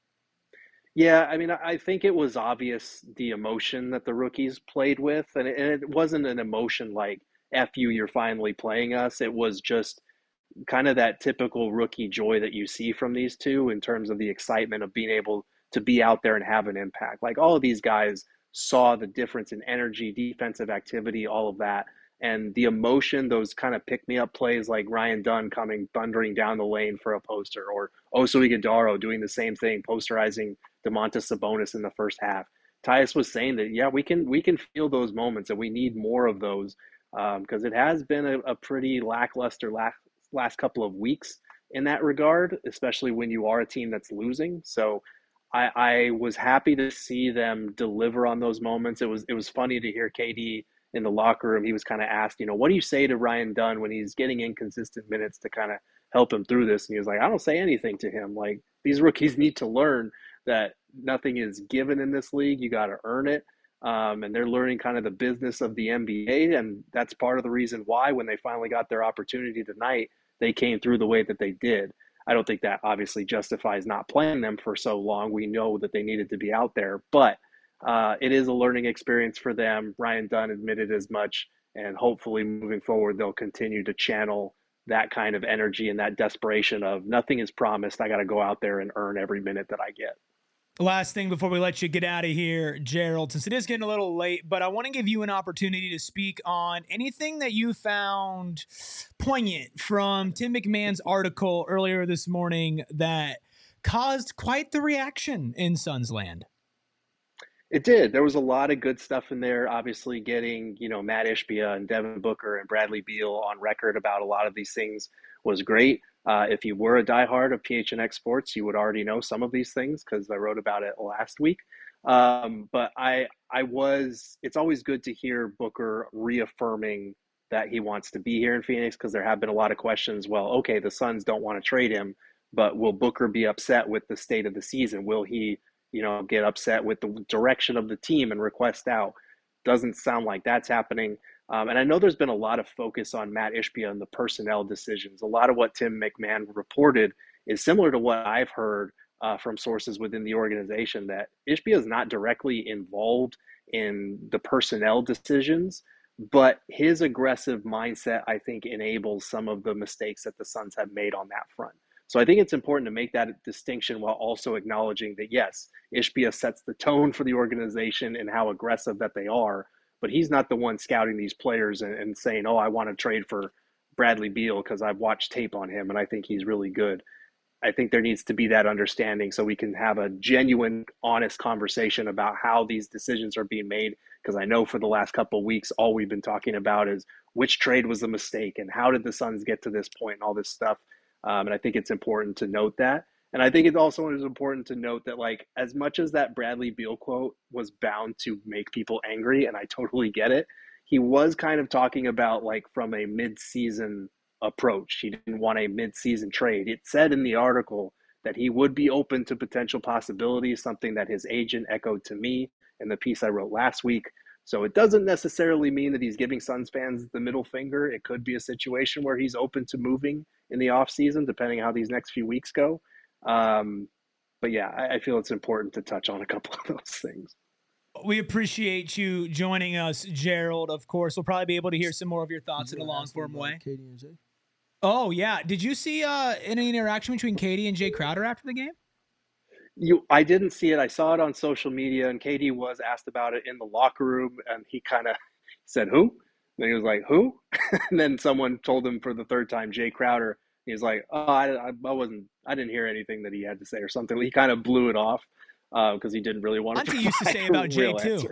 Yeah, I mean, I think it was obvious the emotion that the rookies played with, and it, and it wasn't an emotion like, F you, you're finally playing us. It was just, kind of that typical rookie joy that you see from these two in terms of the excitement of being able to be out there and have an impact. Like all of these guys saw the difference in energy, defensive activity, all of that. And the emotion, those kind of pick-me-up plays like Ryan Dunn coming thundering down the lane for a poster, or Oso Ighodaro doing the same thing, posterizing Domantas Sabonis in the first half. Tyus was saying that, yeah, we can we can feel those moments, and we need more of those because um, it has been a, a pretty lackluster last, last couple of weeks in that regard, especially when you are a team that's losing. So I, I was happy to see them deliver on those moments. It was it was funny to hear K D in the locker room. He was kind of asked, you know, what do you say to Ryan Dunn when he's getting inconsistent minutes to kind of help him through this? And he was like, I don't say anything to him. Like, these rookies need to learn that nothing is given in this league. You got to earn it. Um, and they're learning kind of the business of the N B A. And that's part of the reason why when they finally got their opportunity tonight, they came through the way that they did. I don't think that obviously justifies not playing them for so long. We know that they needed to be out there, but uh, it is a learning experience for them. Ryan Dunn admitted as much, and hopefully moving forward, they'll continue to channel that kind of energy and that desperation of nothing is promised. I got to go out there and earn every minute that I get. Last thing before we let you get out of here, Gerald, since it is getting a little late, but I want to give you an opportunity to speak on anything that you found poignant from Tim McMahon's article earlier this morning that caused quite the reaction in Suns land. It did. There was a lot of good stuff in there. Obviously getting, you know, Matt Ishbia and Devin Booker and Bradley Beal on record about a lot of these things was great. Uh, if you were a diehard of P H N X Sports, you would already know some of these things because I wrote about it last week. Um, but I, I was, it's always good to hear Booker reaffirming that he wants to be here in Phoenix because there have been a lot of questions. Well, okay, the Suns don't want to trade him, but will Booker be upset with the state of the season? Will he, you know, get upset with the direction of the team and request out? Doesn't sound like that's happening. Um, and I know there's been a lot of focus on Matt Ishbia and the personnel decisions. A lot of what Tim McMahon reported is similar to what I've heard uh, from sources within the organization, that Ishbia is not directly involved in the personnel decisions, but his aggressive mindset, I think, enables some of the mistakes that the Suns have made on that front. So I think it's important to make that distinction while also acknowledging that, yes, Ishbia sets the tone for the organization and how aggressive that they are, but he's not the one scouting these players and, and saying, oh, I want to trade for Bradley Beal because I've watched tape on him and I think he's really good. I think there needs to be that understanding so we can have a genuine, honest conversation about how these decisions are being made, because I know for the last couple of weeks, all we've been talking about is which trade was a mistake and how did the Suns get to this point and all this stuff. Um, and I think it's important to note that. And I think it also is important to note that, like, as much as that Bradley Beal quote was bound to make people angry, and I totally get it, he was kind of talking about, like, from a mid-season approach. He didn't want a mid-season trade. It said in the article that he would be open to potential possibilities, something that his agent echoed to me in the piece I wrote last week. So it doesn't necessarily mean that he's giving Suns fans the middle finger. It could be a situation where he's open to moving in the offseason, depending on how these next few weeks go. Um, but yeah, I, I feel it's important to touch on a couple of those things. We appreciate you joining us, Gerald. Of course, we'll probably be able to hear some more of your thoughts in a long form way. K D and Jay. Oh yeah, did you see uh, any interaction between K D and Jay Crowder after the game? You, I didn't see it. I saw it on social media, and K D was asked about it in the locker room, and he kind of said, "Who?" And he was like, "Who?" And then someone told him for the third time, Jay Crowder. He's like, "Oh, I, I wasn't. I didn't hear anything that he had to say, or something." He kind of blew it off because uh, he didn't really want to. Auntie used to say about Jay too.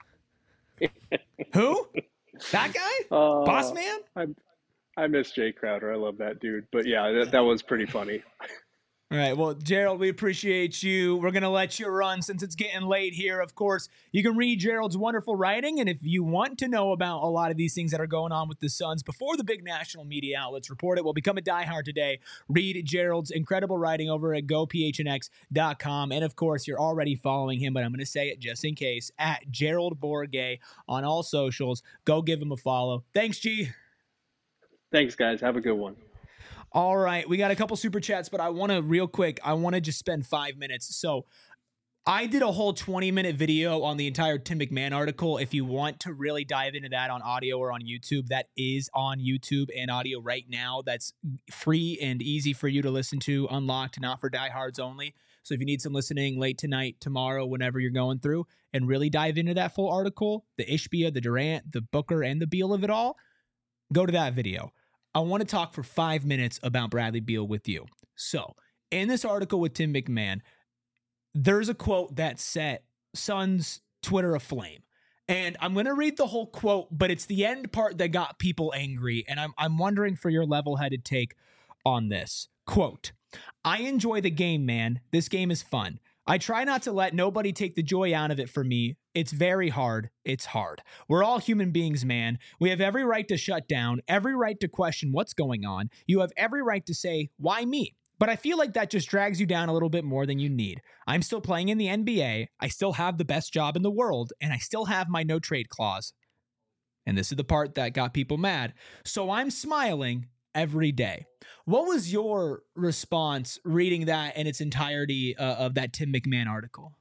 Who? That guy? Uh, Boss man? I, I miss Jay Crowder. I love that dude. But yeah, that, that was pretty funny. All right. Well, Gerald, we appreciate you. We're going to let you run since it's getting late here. Of course, you can read Gerald's wonderful writing. And if you want to know about a lot of these things that are going on with the Suns before the big national media outlets report it, well, become a diehard today. Read Gerald's incredible writing over at go p h n x dot com. And of course, you're already following him, but I'm going to say it just in case, at Gerald Bourguet on all socials. Go give him a follow. Thanks, G. Thanks, guys. Have a good one. All right, we got a couple super chats, but I want to real quick, I want to just spend five minutes. So I did a whole twenty minute video on the entire Tim McMahon article. If you want to really dive into that on audio or on YouTube, that is on YouTube and audio right now. That's free and easy for you to listen to, unlocked, not for diehards only. So if you need some listening late tonight, tomorrow, whenever you're going through, and really dive into that full article, the Ishbia, the Durant, the Booker, and the Beal of it all, go to that video. I want to talk for five minutes about Bradley Beal with you. So in this article with Tim McMahon, there's a quote that set Suns Twitter aflame. And I'm going to read the whole quote, but it's the end part that got people angry. And I'm, I'm wondering for your level-headed take on this. Quote, I enjoy the game, man. This game is fun. I try not to let nobody take the joy out of it for me. It's very hard. It's hard. We're all human beings, man. We have every right to shut down, every right to question what's going on. You have every right to say, why me? But I feel like that just drags you down a little bit more than you need. I'm still playing in the N B A. I still have the best job in the world, and I still have my no trade clause. And this is the part that got people mad. So I'm smiling every day. What was your response reading that in its entirety uh, of that Tim McMahon article?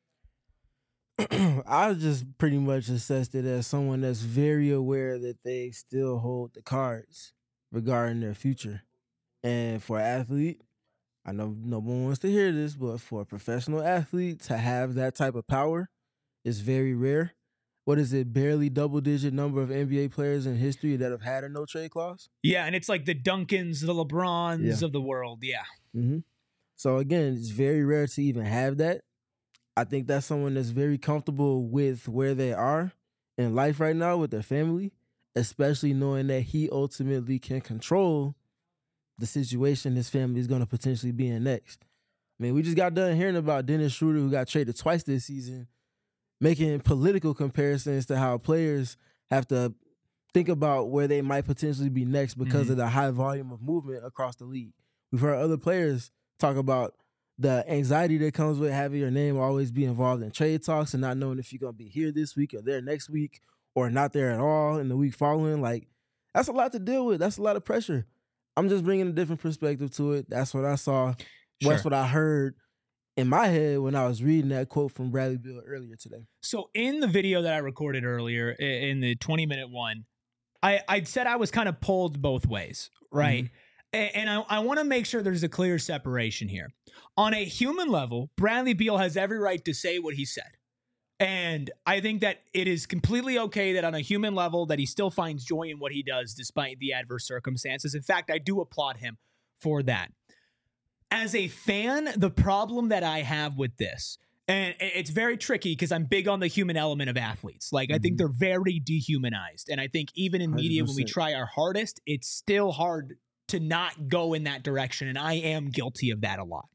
I just pretty much assessed it as someone that's very aware that they still hold the cards regarding their future. And for an athlete, I know no one wants to hear this, but for a professional athlete to have that type of power is very rare. What is it, barely double-digit number of N B A players in history that have had a no-trade clause? Yeah, and it's like the Duncans, the LeBrons Yeah. of the world, yeah. Mm-hmm. So again, it's very rare to even have that. I think that's someone that's very comfortable with where they are in life right now with their family, especially knowing that he ultimately can control the situation his family is going to potentially be in next. I mean, we just got done hearing about Dennis Schroeder, who got traded twice this season, making political comparisons to how players have to think about where they might potentially be next because Mm-hmm. of the high volume of movement across the league. We've heard other players talk about the anxiety that comes with having your name always be involved in trade talks and not knowing if you're going to be here this week or there next week or not there at all in the week following. Like, that's a lot to deal with. That's a lot of pressure. I'm just bringing a different perspective to it. That's what I saw. Sure. That's what I heard in my head when I was reading that quote from Bradley Beal earlier today. So in the video that I recorded earlier, i- in the twenty minute one, I, I said I was kind of pulled both ways, right? Mm-hmm. A- And I, I want to make sure there's a clear separation here. On a human level, Bradley Beal has every right to say what he said. And I think that it is completely okay that on a human level that he still finds joy in what he does despite the adverse circumstances. In fact, I do applaud him for that. As a fan, the problem that I have with this, and it's very tricky because I'm big on the human element of athletes. Like, I think they're very dehumanized. And I think even in media, when we one hundred percent. try our hardest, it's still hard to not go in that direction. And I am guilty of that a lot.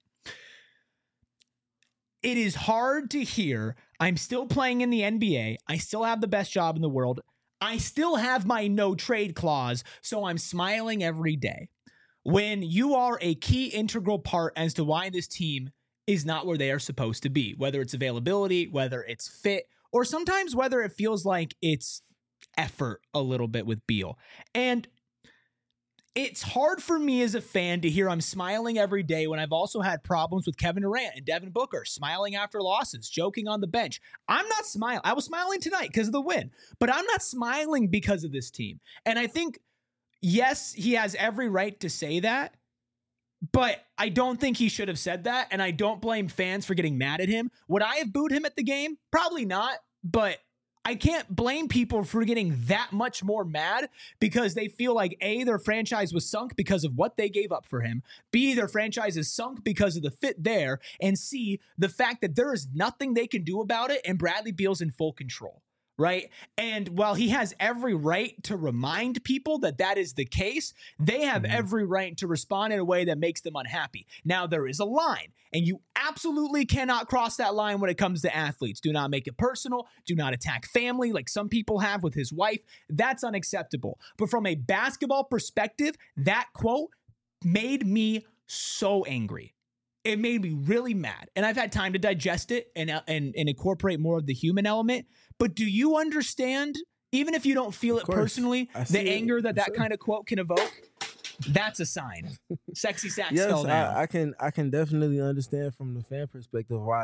It is hard to hear, I'm still playing in the N B A. I still have the best job in the world. I still have my no trade clause, so I'm smiling every day. When you are a key integral part as to why this team is not where they are supposed to be, whether it's availability, whether it's fit, or sometimes whether it feels like it's effort a little bit with Beal. And it's hard for me as a fan to hear I'm smiling every day when I've also had problems with Kevin Durant and Devin Booker, smiling after losses, joking on the bench. I'm not smiling. I was smiling tonight because of the win, but I'm not smiling because of this team. And I think, yes, he has every right to say that, but I don't think he should have said that. And I don't blame fans for getting mad at him. Would I have booed him at the game? Probably not, but I can't blame people for getting that much more mad because they feel like A, their franchise was sunk because of what they gave up for him. B, their franchise is sunk because of the fit there. And C, the fact that there is nothing they can do about it and Bradley Beal's in full control. Right. And while he has every right to remind people that that is the case, they have mm-hmm. every right to respond in a way that makes them unhappy. Now, there is a line, and you absolutely cannot cross that line when it comes to athletes. Do not make it personal. Do not attack family like some people have with his wife. That's unacceptable. But from a basketball perspective, that quote made me so angry. It made me really mad. And I've had time to digest it and, and, and incorporate more of the human element. But do you understand, even if you don't feel it personally, the anger that that kind of quote can evoke? That's a sign. Sexy Sax yes, fell down. I, I can I can definitely understand from the fan perspective why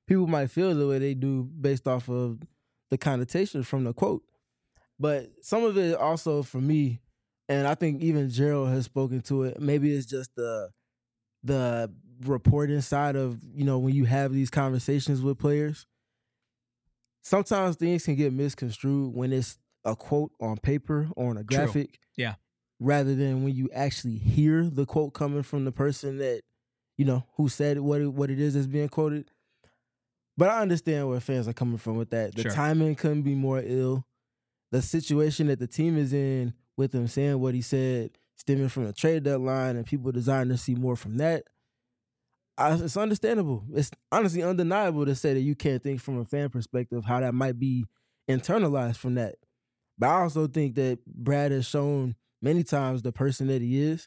people might feel the way they do based off of the connotation from the quote. But some of it also for me, and I think even Gerald has spoken to it, maybe it's just the the reporting side of, you know, when you have these conversations with players. Sometimes things can get misconstrued when it's a quote on paper or on a graphic. True. Yeah. Rather than when you actually hear the quote coming from the person that, you know, who said what it, what it is that's being quoted. But I understand where fans are coming from with that. The Sure. timing couldn't be more ill. The situation that the team is in with him saying what he said, stemming from the trade deadline and people desiring to see more from that, I, it's understandable. It's honestly undeniable to say that you can't think from a fan perspective how that might be internalized from that. But I also think that Brad has shown many times the person that he is.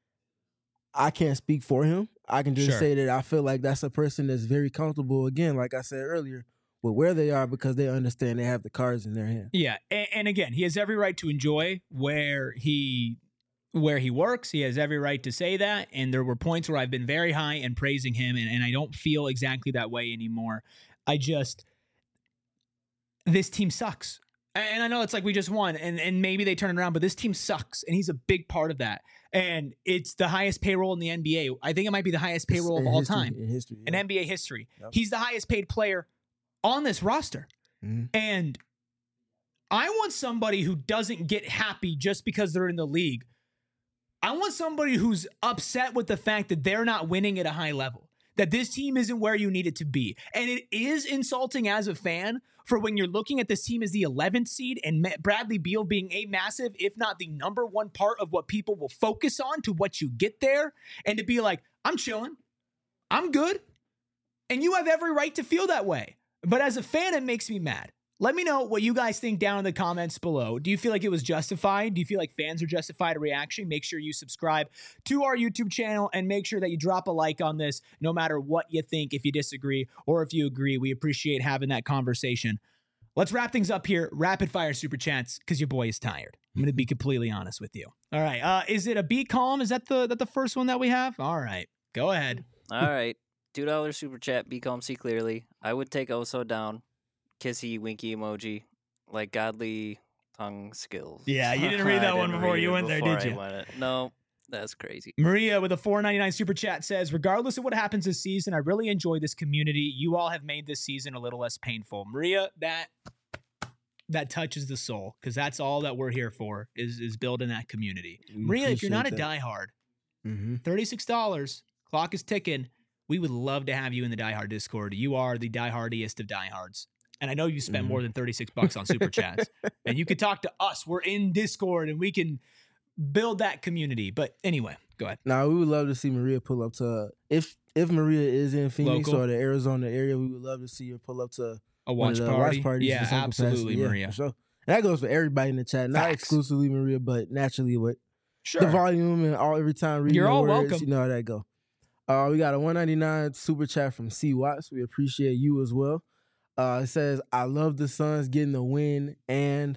I can't speak for him. I can just Sure. say that I feel like that's a person that's very comfortable, again, like I said earlier, with where they are because they understand they have the cards in their hand. Yeah, and, and again, he has every right to enjoy where he where he works. He has every right to say that. And there were points where I've been very high and praising him, and, and I don't feel exactly that way anymore. I just this team sucks. And I know it's like we just won, and, and maybe they turn it around, but this team sucks, and he's a big part of that. And it's the highest payroll in the N B A. I think it might be the highest payroll In of all history- time In history. in yeah. N B A history. Yep. He's the highest paid player on this roster. Mhm. And I want somebody who doesn't get happy just because they're in the league. I want somebody who's upset with the fact that they're not winning at a high level, that this team isn't where you need it to be. And it is insulting as a fan for when you're looking at this team as the eleventh seed and Ma- Bradley Beal being a massive, if not the number one part of what people will focus on to what you get there, and to be like, I'm chilling, I'm good. And you have every right to feel that way. But as a fan, it makes me mad. Let me know what you guys think down in the comments below. Do you feel like it was justified? Do you feel like fans are justified a reaction? Make sure you subscribe to our YouTube channel and make sure that you drop a like on this no matter what you think, if you disagree or if you agree. We appreciate having that conversation. Let's wrap things up here. Rapid fire super chats because your boy is tired. I'm going to be completely honest with you. All right. Uh, is it a Be Calm? Is that the, that the first one that we have? All right. Go ahead. All right. two dollars super chat, Be Calm, See Clearly. I would take Oso down. Kissy, winky emoji, like godly tongue skills. Yeah, you didn't read that I one didn't before read you it went there, before did I you? went it. No, that's crazy. Maria with a four ninety-nine super chat says, regardless of what happens this season, I really enjoy this community. You all have made this season a little less painful. Maria, that that touches the soul because that's all that we're here for is, is building that community. We Maria, if you're not a appreciate that. diehard, Mm-hmm. thirty-six dollars, clock is ticking. We would love to have you in the diehard Discord. You are the diehardiest of diehards. And I know you spent Mhm. more than thirty-six bucks on super chats. And you can talk to us. We're in Discord and we can build that community. But anyway, go ahead. Now, we would love to see Maria pull up to, if if Maria is in Phoenix Local. or the Arizona area, we would love to see her pull up to A one watch of the party. watch parties. Yeah, of some capacity. absolutely, Yeah, Maria. for sure. And that goes for everybody in the chat, not Facts. exclusively Maria, but naturally with Sure. the volume and all every time reading You're the all words, welcome. you know how that go. Uh, we got a one ninety-nine super chat from C Watts. We appreciate you as well. Uh, it says, I love the Suns getting the win and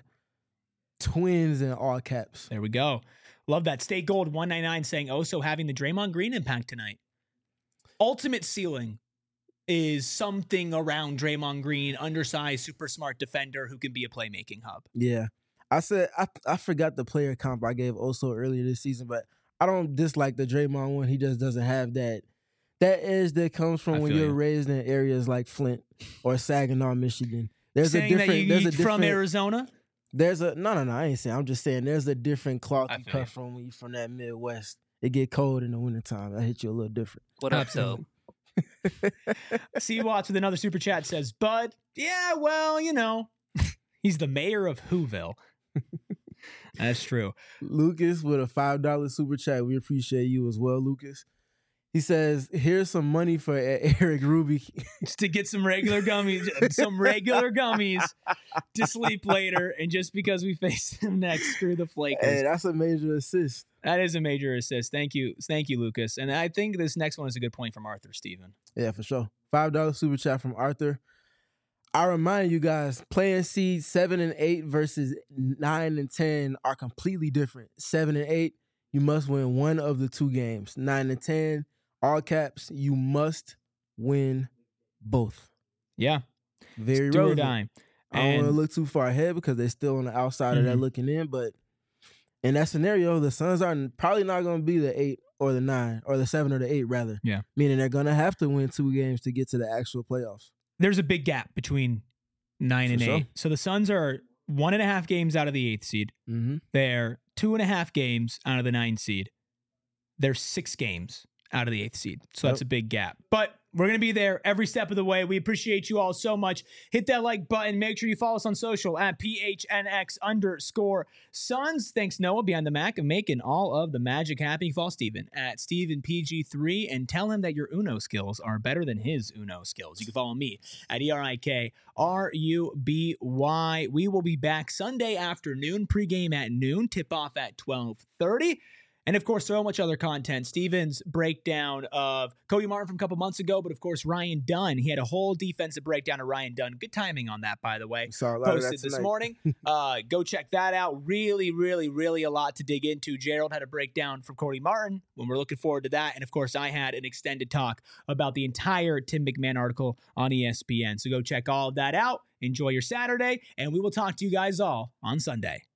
twins in all caps. There we go. Love that. State Gold one ninety-nine saying also having the Draymond Green impact tonight. Ultimate ceiling is something around Draymond Green, undersized, super smart defender who can be a playmaking hub. Yeah. I said, I I forgot the player comp I gave Oso earlier this season, but I don't dislike the Draymond one. He just doesn't have that that edge that comes from I when feel you're you. raised in areas like Flint or Saginaw, Michigan. There's saying a different that you, there's you a different from Arizona? There's a no no no, I ain't saying. I'm just saying there's a different cloth I you feel cut you. from when you from that Midwest. It get cold in the wintertime. That hit you a little different. What up, Absolutely. though? C Watts with another super chat says, Bud, yeah, well, you know, he's the mayor of Whoville. That's true. Lucas with a five dollar super chat. We appreciate you as well, Lucas. He says, here's some money for E- Eric Ruby. Just to get some regular gummies, some regular gummies to sleep later. And just because we face him next, screw the Flakers. Hey, that's a major assist. That is a major assist. Thank you. Thank you, Lucas. And I think this next one is a good point from Arthur Steven. Yeah, for sure. five dollar super chat from Arthur. I remind you guys, playing seeds seven and eight versus nine and ten are completely different. seven and eight, you must win one of the two games. nine and ten, all caps, you must win both. Yeah. Very Do or relevant. die. I don't want to And look too far ahead because they're still on the outside of that Mhm. looking in. But in that scenario, the Suns are probably not going to be the eight or the nine or the seven or the eight, rather. Yeah. Meaning they're going to have to win two games to get to the actual playoffs. there's a big gap between nine For and sure. eight. So the Suns are one and a half games out of the eighth seed. Mm-hmm. They're two and a half games out of the nine seed. They're six games out of the eighth seed. So that's Yep. a big gap. But we're going to be there every step of the way. We appreciate you all so much. Hit that like button. Make sure you follow us on social at P H N X underscore Suns. Thanks, Noah, behind the Mac, of making all of the magic happen. Follow Steven at Steven P G three and tell him that your Uno skills are better than his Uno skills. You can follow me at E R I K R U B Y. We will be back Sunday afternoon, pregame at noon, tip off at twelve thirty. And of course, so much other content. Steven's breakdown of Cody Martin from a couple months ago, but of course, Ryan Dunn. He had a whole defensive breakdown of Ryan Dunn. Good timing on that, by the way. Saw a lot of that Posted this tonight. morning. Uh, go check that out. Really, really, really a lot to dig into. Gerald had a breakdown from Cody Martin when we're looking forward to that. And of course, I had an extended talk about the entire Tim McMahon article on E S P N. So go check all of that out. Enjoy your Saturday, and we will talk to you guys all on Sunday.